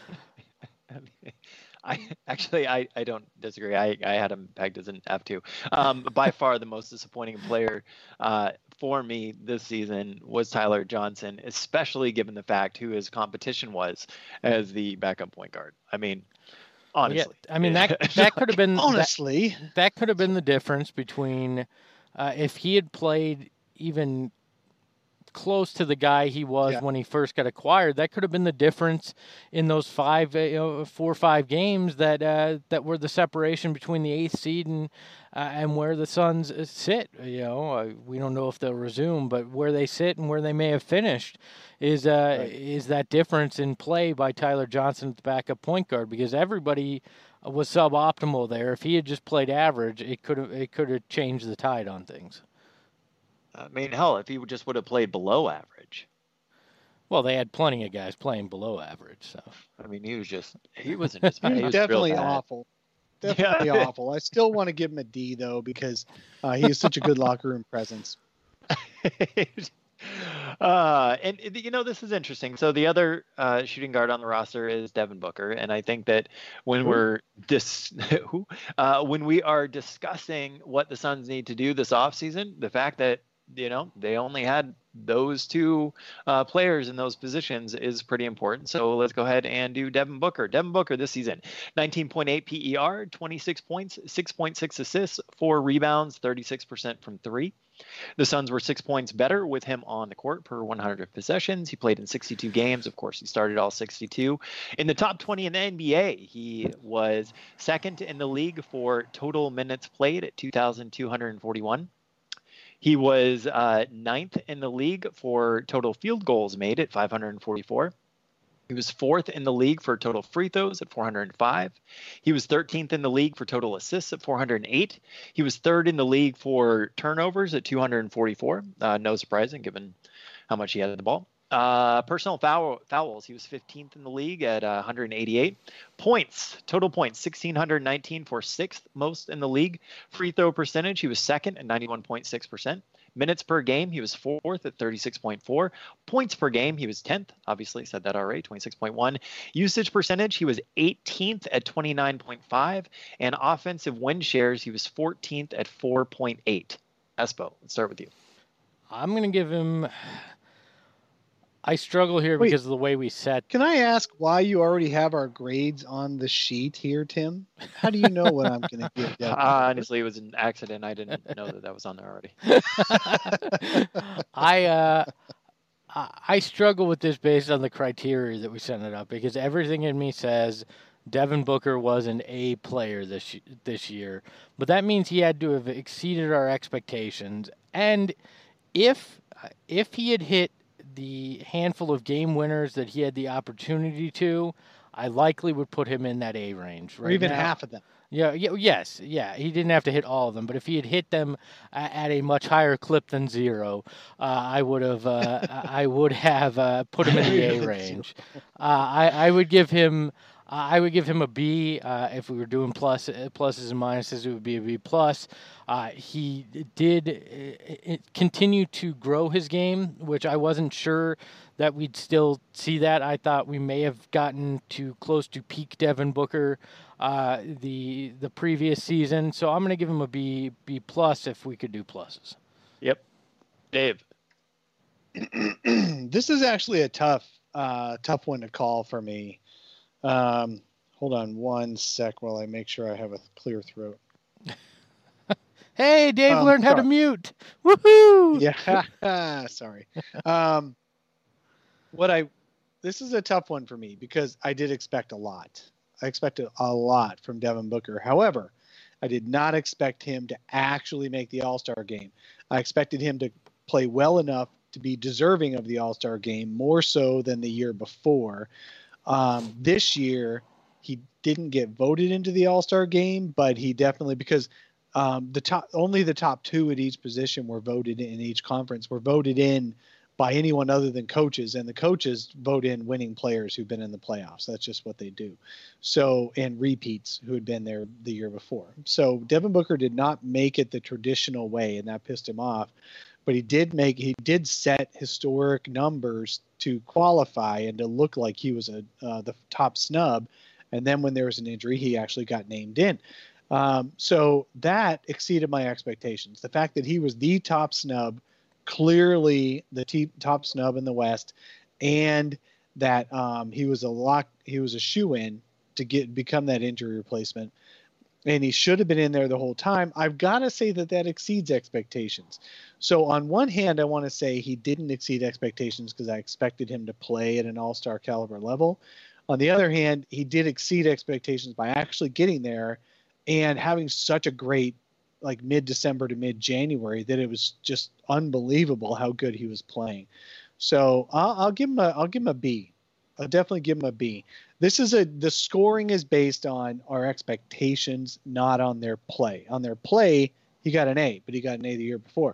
I don't disagree. I had him pegged as an F2. By far the most disappointing player for me this season was Tyler Johnson, especially given the fact who his competition was as the backup point guard. I mean, honestly. Yeah, I mean that could have been honestly that could have been the difference between if he had played even close to the guy he was when he first got acquired. That could have been the difference in those 4 or 5 games that were the separation between the 8th seed and where the Suns sit. We don't know if they'll resume, but where they sit and where they may have finished is that difference in play by Tyler Johnson at the backup point guard, because everybody was suboptimal there. If he had just played average, it could have changed the tide on things. I mean, hell, if he just would have played below average. Well, they had plenty of guys playing below average. So I mean, he wasn't just bad. He was definitely real bad. awful. Definitely awful. I still want to give him a D though, because he is such a good locker room presence. And this is interesting. So the other shooting guard on the roster is Devin Booker, and I think that when when we are discussing what the Suns need to do this offseason, the fact that they only had those 2 players in those positions is pretty important. So let's go ahead and do Devin Booker. Devin Booker this season, 19.8 PER, 26 points, 6.6 assists, 4 rebounds, 36% from 3. The Suns were 6 points better with him on the court per 100 possessions. He played in 62 games. Of course, he started all 62. In the top 20 in the NBA, he was second in the league for total minutes played at 2,241. He was ninth in the league for total field goals made at 544. He was fourth in the league for total free throws at 405. He was 13th in the league for total assists at 408. He was third in the league for turnovers at 244. No surprising given how much he had the ball. Personal fouls, he was 15th in the league at 188. Points, total points, 1,619 for sixth most in the league. Free throw percentage, he was second at 91.6%. Minutes per game, he was fourth at 36.4. Points per game, he was 10th. Obviously, said that already, 26.1. Usage percentage, he was 18th at 29.5. And offensive win shares, he was 14th at 4.8. Espo, let's start with you. I'm going to give him... I struggle here Wait. because of the way we set. Can I ask why you already have our grades on the sheet here, Tim? How do you know what I'm going to give Devin? Honestly, it was an accident. I didn't know that was on there already. I struggle with this based on the criteria that we set it up because everything in me says Devin Booker was an A player this year, but that means he had to have exceeded our expectations. And if he had hit the handful of game winners that he had the opportunity to, I likely would put him in that A range. Right Or even now. half of them. Yeah. He didn't have to hit all of them, but if he had hit them at a much higher clip than 0, I would have put him in the A range. I would give him a B. If we were doing pluses and minuses, it would be a B plus. He did continue to grow his game, which I wasn't sure that we'd still see that. I thought we may have gotten too close to peak Devin Booker the previous season. So I'm going to give him a B plus if we could do pluses. Yep. Dave. This is actually a tough one to call for me. Hold on one sec while I make sure I have a clear throat. Hey, Dave learned how to mute. Woohoo! Yeah, sorry. This is a tough one for me because I did expect a lot. I expected a lot from Devin Booker. However, I did not expect him to actually make the All-Star game. I expected him to play well enough to be deserving of the All-Star game, more so than the year before. This year, he didn't get voted into the All-Star game, but he definitely, because only the top 2 at each position were voted in each conference, were voted in by anyone other than coaches, and the coaches vote in winning players who've been in the playoffs. That's just what they do. So, and repeats who had been there the year before. So Devin Booker did not make it the traditional way, and that pissed him off. But he did set historic numbers to qualify and to look like he was the top snub. And then when there was an injury, he actually got named in. So that exceeded my expectations. The fact that he was the top snub, clearly the top snub in the West, and that he was a shoo-in to become that injury replacement, and he should have been in there the whole time. I've got to say that exceeds expectations. So on one hand, I want to say he didn't exceed expectations because I expected him to play at an all-star caliber level. On the other hand, he did exceed expectations by actually getting there and having such a great, like, mid-December to mid-January that it was just unbelievable how good he was playing. So I'll give him a B. I'll definitely give him a B. The scoring is based on our expectations, not on their play. On their play, he got an A, but he got an A the year before.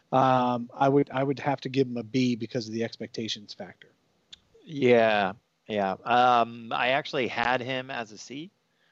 I would have to give him a B because of the expectations factor. Yeah. I actually had him as a C,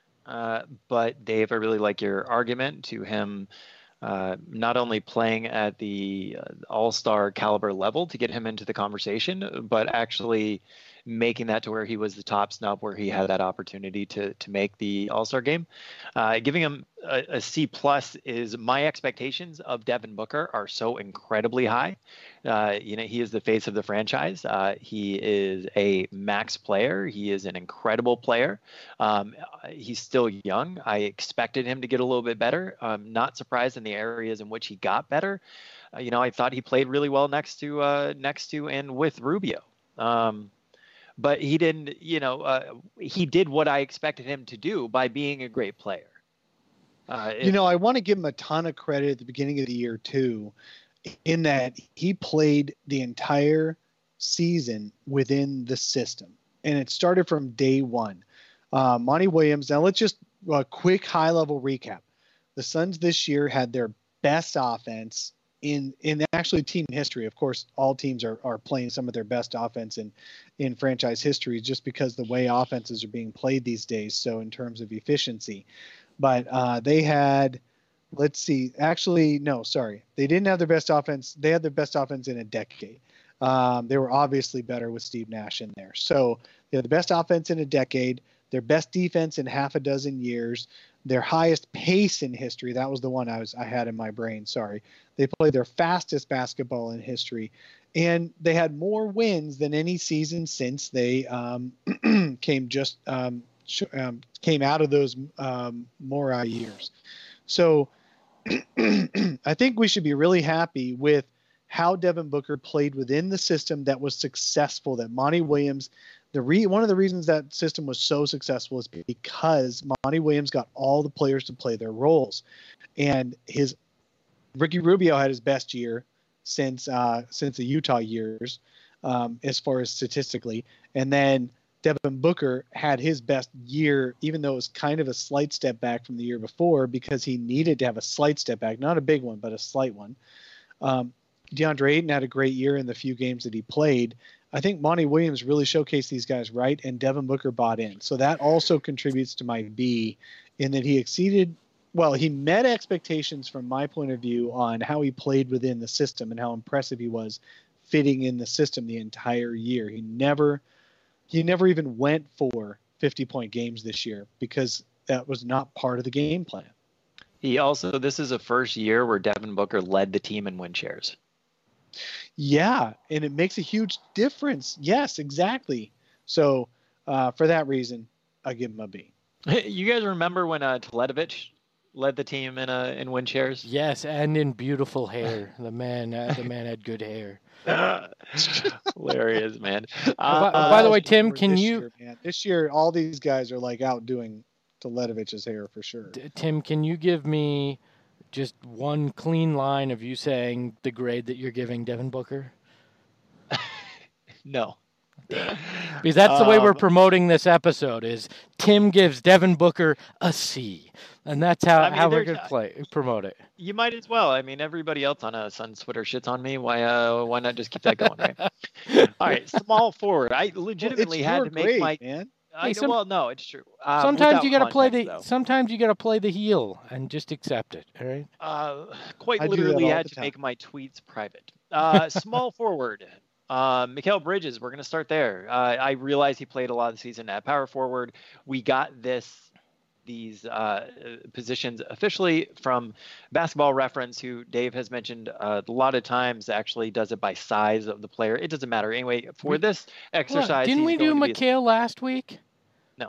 but Dave, I really like your argument to him not only playing at the all-star caliber level to get him into the conversation, but actually making that to where he was the top snub, where he had that opportunity to make the all-star game. Giving him a C plus is my expectations of Devin Booker are so incredibly high. He is the face of the franchise. He is a max player. He is an incredible player. He's still young. I expected him to get a little bit better. I'm not surprised in the areas in which he got better. I thought he played really well next to and with Rubio. But he didn't, he did what I expected him to do by being a great player. I want to give him a ton of credit at the beginning of the year too. in that he played the entire season within the system, and it started from day one. Monty Williams. Now let's just a quick high-level recap. The Suns this year had their best offense in actually team history. Of course, all teams are playing some of their best offense in franchise history just because the way offenses are being played these days. So in terms of efficiency, but they had, let's see, actually, no, sorry. They didn't have their best offense. They had their best offense in a decade. They were obviously better with Steve Nash in there. So they had the best offense in a decade, their best defense in half a dozen years, their highest pace in history. That was the one I had in my brain. Sorry. They played their fastest basketball in history, and they had more wins than any season since they came out of those Mora years. So I think we should be really happy with how Devin Booker played within the system that was successful, that Monty Williams, one of the reasons that system was so successful is because Monty Williams got all the players to play their roles. And Ricky Rubio had his best year since the Utah years, as far as statistically. And then Devin Booker had his best year, even though it was kind of a slight step back from the year before, because he needed to have a slight step back, not a big one, but a slight one. DeAndre Ayton had a great year in the few games that he played. I think Monty Williams really showcased these guys right, and Devin Booker bought in. So that also contributes to my B, in that he met expectations from my point of view on how he played within the system and how impressive he was fitting in the system the entire year. He never even went for 50-point games this year because that was not part of the game plan. This is a first year where Devin Booker led the team in win shares. Yeah, and it makes a huge difference. Yes, exactly. So for that reason, I give him a B. You guys remember when Teletovic led the team in win shares? Yes, and in beautiful hair. The man had good hair. Hilarious, man. By the way, Tim, this year, all these guys are like outdoing Teletovic's hair for sure. Tim, can you give me just one clean line of you saying the grade that you're giving Devin Booker? No. Because that's the way we're promoting this episode, is Tim gives Devin Booker a C. And that's how we're going to promote it. You might as well. I mean, everybody else on Suns Twitter shits on me. Why not just keep that going, right? All right, small forward. I legitimately had to make my... Man. No, it's true. Sometimes you got to play Sometimes you got to play the heel and just accept it. All right. Quite literally had to make my tweets private. Small forward. Mikal Bridges. We're going to start there. I realize he played a lot of the season at power forward. We got these positions officially from Basketball Reference, who Dave has mentioned a lot of times actually does it by size of the player. It doesn't matter. Anyway, for this exercise... Didn't we do Mikal last week? No.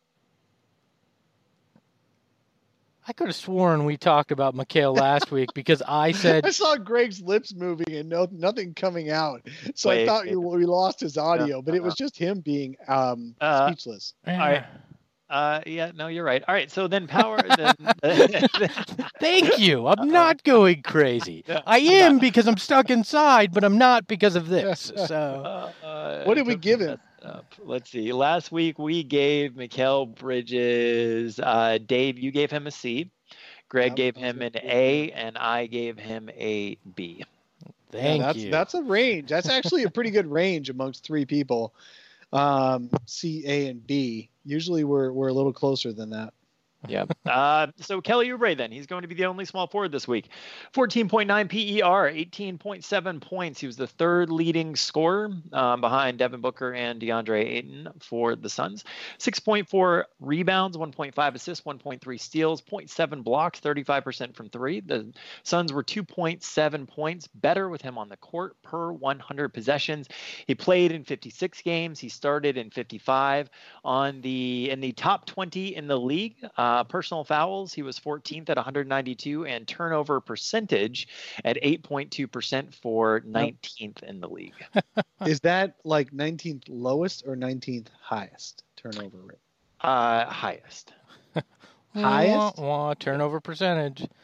I could have sworn we talked about Mikal last week because I said... I saw Greg's lips moving and nothing coming out. So I thought we lost his audio, but it was just him being speechless. All right. No, you're right. All right, so then power. Thank you. I'm not going crazy. I am because I'm stuck inside, but I'm not because of this. So, what did we give him? Let's see. Last week we gave Mikal Bridges. Dave, you gave him a C. Greg gave him an A, and I gave him a B. Thank you. That's a range. That's actually a pretty good range amongst three people. C, A, and B. Usually we're a little closer than that. Yeah. So Kelly Oubre, then, he's going to be the only small forward this week. 14.9 PER, 18.7 points. He was the third leading scorer behind Devin Booker and DeAndre Ayton for the Suns. 6.4 rebounds, 1.5 assists, 1.3 steals, 0.7 blocks, 35% from three. The Suns were 2.7 points better with him on the court per 100 possessions. He played in 56 games. He started in 55. In the top 20 in the league, personal fouls, he was 14th at 192, and turnover percentage at 8.2% for 19th in the league. Is that like 19th lowest or 19th highest turnover rate? Highest. Highest? Turnover percentage.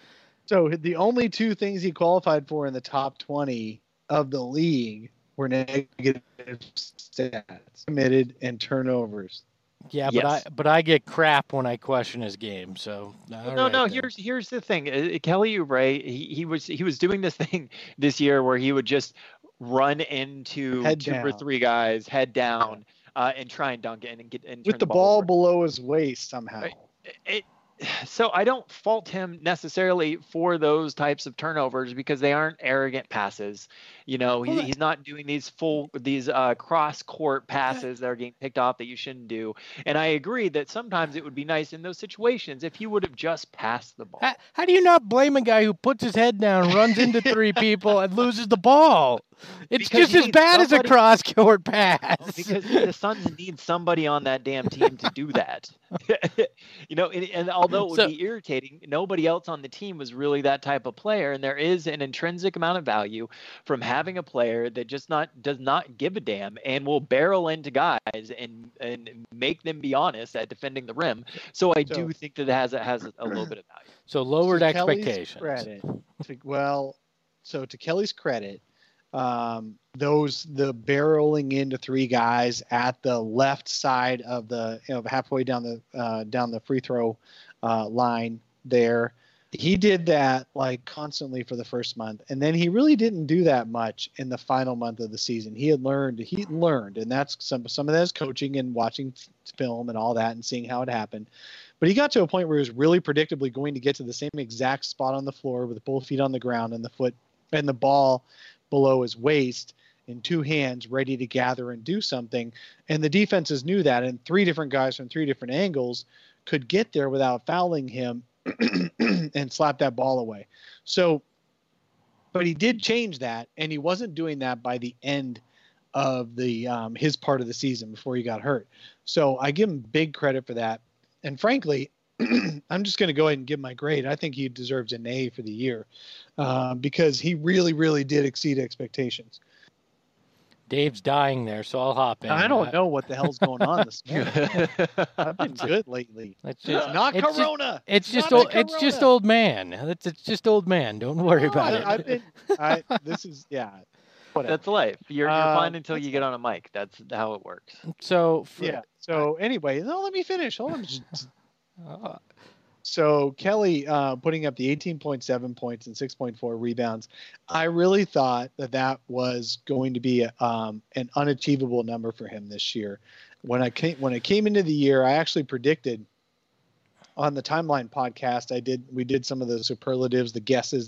So the only two things he qualified for in the top 20 of the league were negative stats, committed and turnovers. Yeah, Yes. but I get crap when I question his game. So No. Here's the thing. Kelly Oubre, he was doing this thing this year where he would just run into Head two down. or three guys, head down, and try and dunk it and get and With turn the ball ball over. below his waist somehow. So I don't fault him necessarily for those types of turnovers because they aren't arrogant passes. You know, he's not doing these cross court passes that are getting picked off that you shouldn't do. And I agree that sometimes it would be nice in those situations if he would have just passed the ball. How do you not blame a guy who puts his head down, runs into three people, and loses the ball? It's Because just as he bad needs as a somebody- cross court pass. Because the Suns need somebody on that damn team to do that. You know, and although it would be irritating, nobody else on the team was really that type of player. And there is an intrinsic amount of value from having a player that does not give a damn and will barrel into guys and make them be honest at defending the rim. So I do think that it has a little bit of value. So lowered To Kelly's expectations. credit, to Kelly's credit, the barreling into three guys at the left side of the halfway down the free throw line there, he did that like constantly for the first month, and then he really didn't do that much in the final month of the season. He learned, and that's some of that is coaching and watching film and all that and seeing how it happened. But he got to a point where he was really predictably going to get to the same exact spot on the floor with both feet on the ground and the ball below his waist in two hands, ready to gather and do something. And the defenses knew that, and three different guys from three different angles could get there without fouling him and slap that ball away. So, but he did change that, and he wasn't doing that by the end of the his part of the season before he got hurt. So I give him big credit for that. And frankly, I'm just going to go ahead and give my grade. I think he deserves an A for the year because he really, really did exceed expectations. Dave's dying there, so I'll hop in. I don't know what the hell's going on this morning. I've been good lately. It's just Not Corona. It's just not old. a It's just Corona. old man. It's just old man. Don't worry about it. Whatever. That's life. You're fine until that's you get on a mic. That's how it works. So So anyway, no, let me finish. Hold on. So Kelly putting up the 18.7 points and 6.4 rebounds. I really thought that was going to be an unachievable number for him this year. When I came into the year, I actually predicted on the Timeline podcast. We did some of the superlatives, the guesses,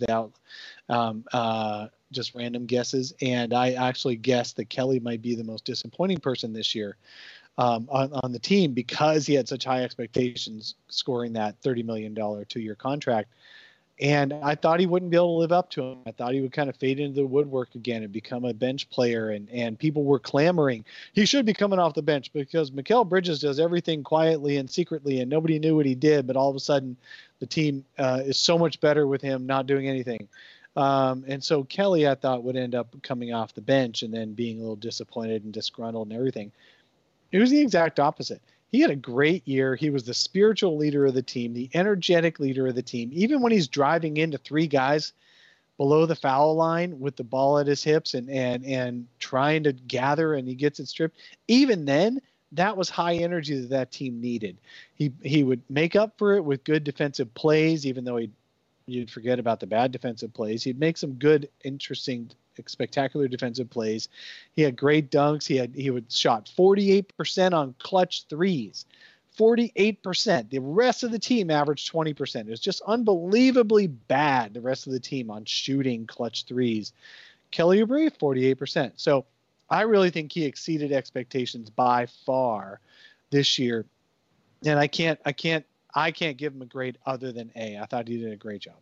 just random guesses, and I actually guessed that Kelly might be the most disappointing person this year on the team because he had such high expectations scoring that $30 million 2-year contract. And I thought he wouldn't be able to live up to him. I thought he would kind of fade into the woodwork again and become a bench player. And people were clamoring he should be coming off the bench because Mikal Bridges does everything quietly and secretly, and nobody knew what he did. But all of a sudden, the team is so much better with him not doing anything. And so Kelly, I thought, would end up coming off the bench and then being a little disappointed and disgruntled and everything. It was the exact opposite. He had a great year. He was the spiritual leader of the team, the energetic leader of the team. Even when he's driving into three guys below the foul line with the ball at his hips and trying to gather and he gets it stripped, even then, that was high energy that team needed. He would make up for it with good defensive plays, even though you'd forget about the bad defensive plays. He'd make some good, interesting, spectacular defensive plays. He had great dunks. He would shot 48% on clutch threes. 48%. The rest of the team averaged 20%. It was just unbelievably bad, the rest of the team, on shooting clutch threes. Kelly Oubre, 48%. So I really think he exceeded expectations by far this year. And I can't give him a grade other than A. I thought he did a great job.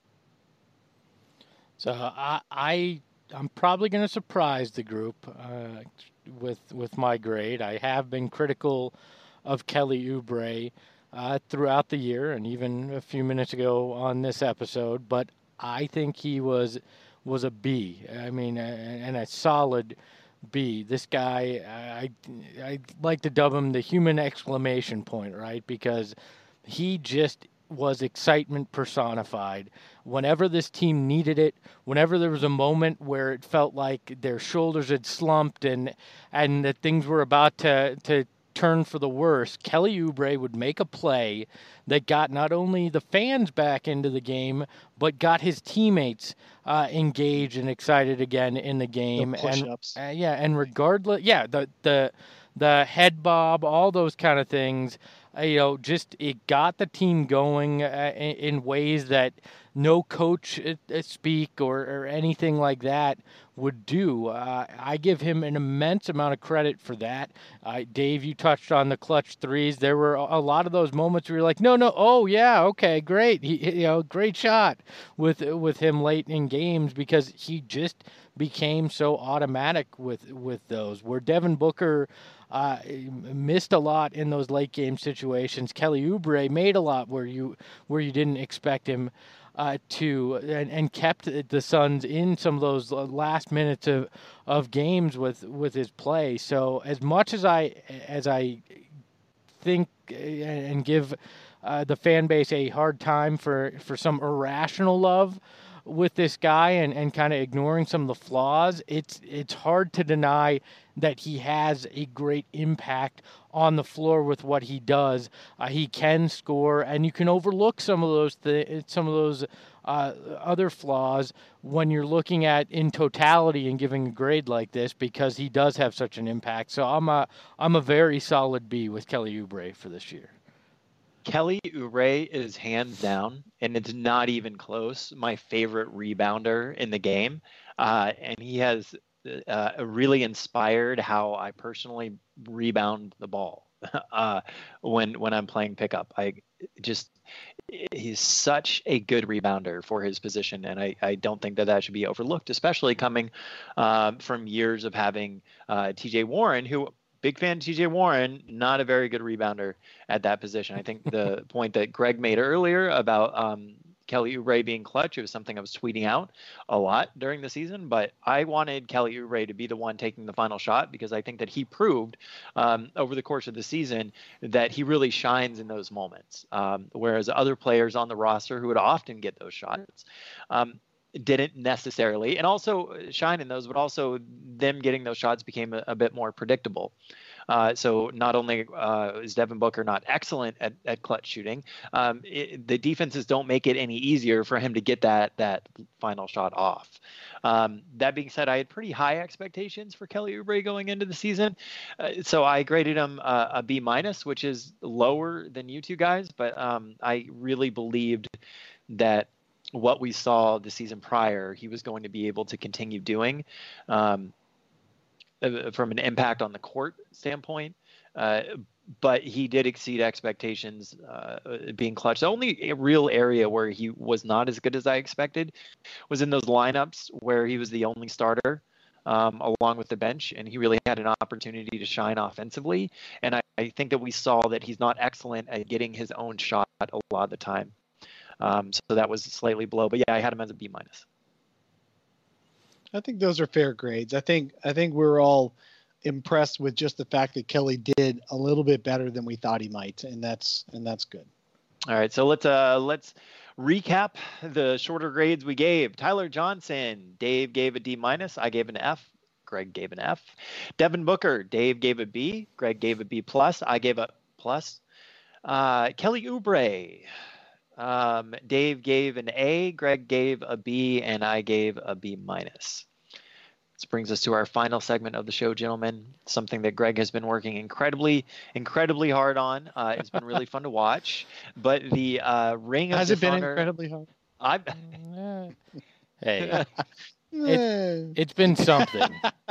So I'm probably going to surprise the group with my grade. I have been critical of Kelly Oubre throughout the year and even a few minutes ago on this episode, but I think he was a B. I mean, and a solid B. This guy, I like to dub him the human exclamation point, right? Because he just was excitement personified. Whenever this team needed it, whenever there was a moment where it felt like their shoulders had slumped and that things were about to turn for the worse, Kelly Oubre would make a play that got not only the fans back into the game, but got his teammates engaged and excited again in the game. The push-ups. And regardless, the head bob, all those kind of things, just it got the team going in ways that no coach speak or anything like that would do. I give him an immense amount of credit for that. Dave, you touched on the clutch threes. There were a lot of those moments where you're like, no, oh yeah, okay, great, great shot with him late in games, because he just became so automatic with those. Where Devin Booker missed a lot in those late game situations, Kelly Oubre made a lot where you didn't expect him to, and kept the Suns in some of those last minutes of games with his play. So as much as I think and give the fan base a hard time for some irrational love with this guy and kind of ignoring some of the flaws, it's hard to deny that he has a great impact on the floor with what he does. He can score, and you can overlook some of those other flaws when you're looking at in totality and giving a grade like this, because he does have such an impact. So I'm a very solid B with Kelly Oubre for this year. Kelly Oubre is hands down, and it's not even close, my favorite rebounder in the game. And he has really inspired how I personally rebound the ball when I'm playing pickup. He's such a good rebounder for his position, and I don't think that should be overlooked, especially coming from years of having TJ Warren, who, big fan of TJ Warren, not a very good rebounder at that position. I think the point that Greg made earlier about Kelly Oubre being clutch, it was something I was tweeting out a lot during the season, but I wanted Kelly Oubre to be the one taking the final shot, because I think that he proved over the course of the season that he really shines in those moments, whereas other players on the roster who would often get those shots didn't necessarily, and also shine in those, but also them getting those shots became a bit more predictable. So not only is Devin Booker not excellent at clutch shooting, the defenses don't make it any easier for him to get that final shot off. That being said, I had pretty high expectations for Kelly Oubre going into the season. So I graded him a B-, which is lower than you two guys, but I really believed that what we saw the season prior, he was going to be able to continue doing from an impact on the court standpoint. But he did exceed expectations being clutch. The only real area where he was not as good as I expected was in those lineups where he was the only starter along with the bench, and he really had an opportunity to shine offensively. And I think that we saw that he's not excellent at getting his own shot a lot of the time. So that was slightly below, but yeah, I had him as a B-. I think those are fair grades. I think we're all impressed with just the fact that Kelly did a little bit better than we thought he might, and that's good. All right, so let's recap the shorter grades we gave. Tyler Johnson, Dave gave a D-, I gave an F, Greg gave an F. Devin Booker, Dave gave a B, Greg gave a B+, I gave a plus. Kelly Oubre, Dave gave an A, Greg gave a B, and I gave a B-. This brings us to our final segment of the show, gentlemen. Something that Greg has been working incredibly hard on. It's been really fun to watch. But the Ring of Dishonor... Has it been incredibly hard? Hey, it's been something.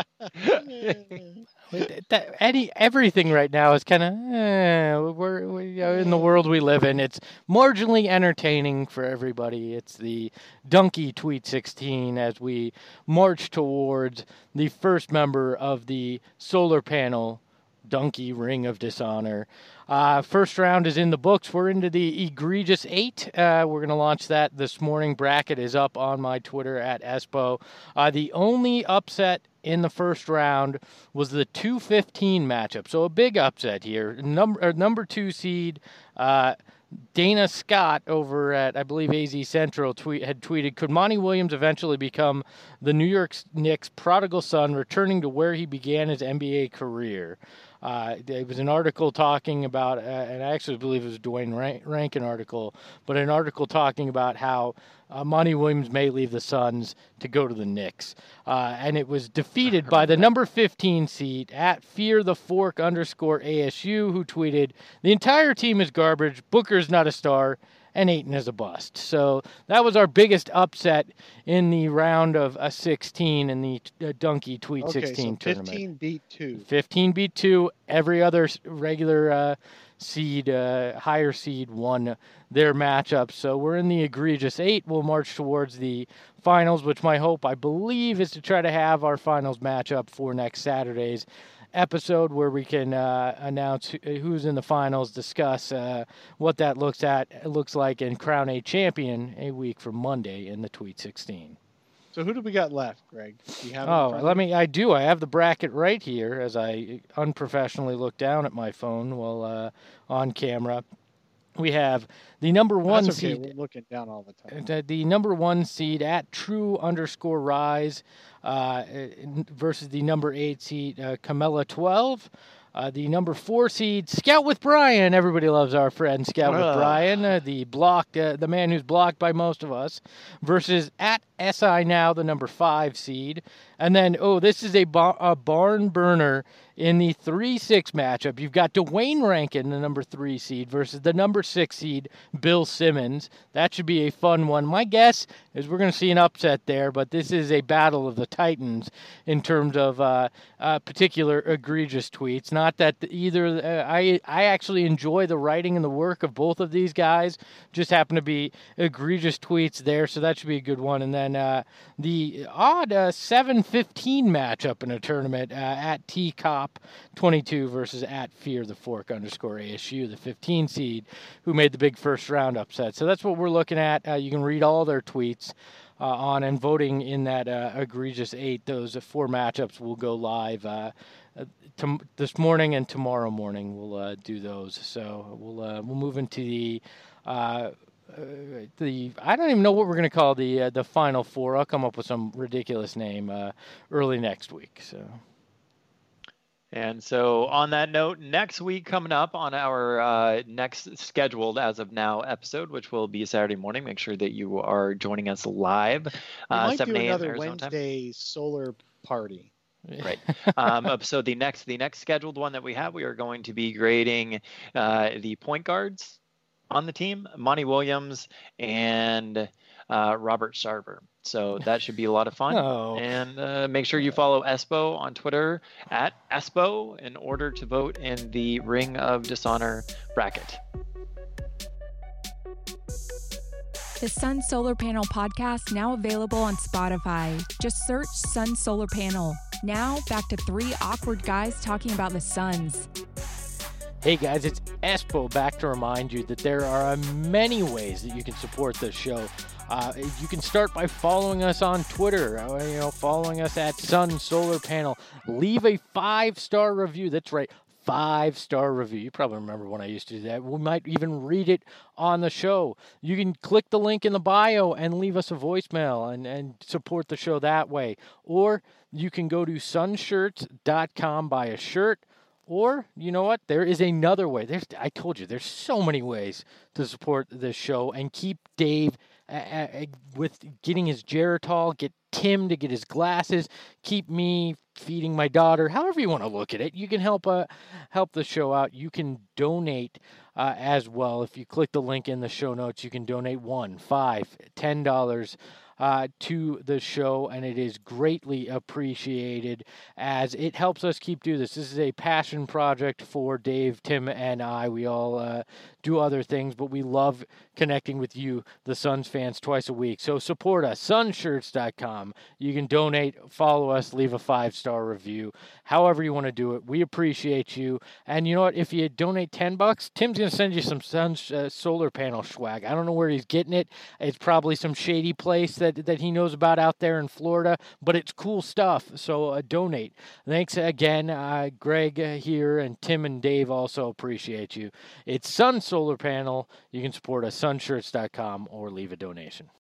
Everything right now is kind of we're in the world we live in. It's marginally entertaining for everybody. It's the Donkey Tweet 16 as we march towards the first member of the solar panel Donkey Ring of Dishonor. First round is in the books. We're into the egregious 8. We're going to launch that this morning. Bracket is up on my Twitter at Espo. The only upset in the first round was the 2-15 matchup. So a big upset here. Number 2 seed, Dana Scott over at, I believe, AZ Central had tweeted, could Monty Williams eventually become the New York Knicks' prodigal son, returning to where he began his NBA career? There was an article talking about, and I actually believe it was a Dwayne Rankin article, but an article talking about how Monty Williams may leave the Suns to go to the Knicks. And it was defeated by the number 15 seed at @FearTheFork_ASU, who tweeted, the entire team is garbage, Booker's not a star, and Ayton is a bust. So that was our biggest upset in the round of 16 in the Donkey Tweet 16 tournament. 15 beat 2. 15 beat 2. Every other regular seed, higher seed, won their matchup. So we're in the egregious 8. We'll march towards the finals, which my hope, I believe, is to try to have our finals matchup for next Saturday's episode, where we can announce who's in the finals, discuss what that looks like, and crown a champion a week from Monday in the Tweet 16. So who do we got left, Greg? Do you have I do. I have the bracket right here as I unprofessionally look down at my phone while on camera. We have the number 1 seed. We're looking down all the time. The number 1 seed at True_Rise versus the number 8 seed Camilla 12. The number 4 seed Scout with Brian. Everybody loves our friend Scout with Brian, the man who's blocked by most of us, versus at SI Now, the number 5 seed. And then, this is a barn burner in the 3-6 matchup. You've got Dwayne Rankin, the number 3 seed, versus the number 6 seed, Bill Simmons. That should be a fun one. My guess is we're going to see an upset there, but this is a battle of the Titans in terms of particular egregious tweets. Not that either. I actually enjoy the writing and the work of both of these guys. Just happen to be egregious tweets there, so that should be a good one. And then the odd 7-15 matchup in a tournament at TCOP22 versus at FearTheFork_ASU, the 15 seed, who made the big first round upset. So that's what we're looking at. You can read all their tweets on and voting in that egregious 8. Those 4 matchups will go live this morning and tomorrow morning. We'll do those. So we'll move into the I don't even know what we're going to call the Final Four. I'll come up with some ridiculous name early next week. And so on that note, next week coming up on our next scheduled as of now episode, which will be Saturday morning, make sure that you are joining us live. We might 7 do a.m. another Arizona Wednesday time. solar party. Right. So the next scheduled one that we have, we are going to be grading the point guards on the team, Monty Williams and Robert Sarver. So that should be a lot of fun. And make sure you follow Espo on Twitter at Espo in order to vote in the Ring of Dishonor bracket. The Sun Solar Panel podcast now available on Spotify. Just search Sun Solar Panel. Now back to 3 awkward guys talking about the Suns. Hey guys, it's Espo back to remind you that there are many ways that you can support this show. You can start by following us on Twitter, following us at Sun Solar Panel. Leave a 5-star review. That's right, 5-star review. You probably remember when I used to do that. We might even read it on the show. You can click the link in the bio and leave us a voicemail and support the show that way. Or you can go to sunshirts.com, buy a shirt. Or, you know what? There is another way. I told you, there's so many ways to support this show and keep Dave with getting his Geritol, get Tim to get his glasses, keep me feeding my daughter, however you want to look at it. You can help the show out. You can donate as well. If you click the link in the show notes, you can donate $1, $5, $10 to the show, and it is greatly appreciated as it helps us keep doing this. This is a passion project for Dave, Tim, and I. We all do other things, but we love connecting with you, the Suns fans, twice a week. So support us, sunshirts.com. You can donate, follow us, leave a 5-star review, however you want to do it. We appreciate you. And you know what? If you donate $10, Tim's going to send you some Suns solar panel swag. I don't know where he's getting it. It's probably some shady place that he knows about out there in Florida, but it's cool stuff. So donate. Thanks again, Greg here, and Tim and Dave also appreciate you. It's Sun Solar Panel. You can support us, sunshirts.com, or leave a donation.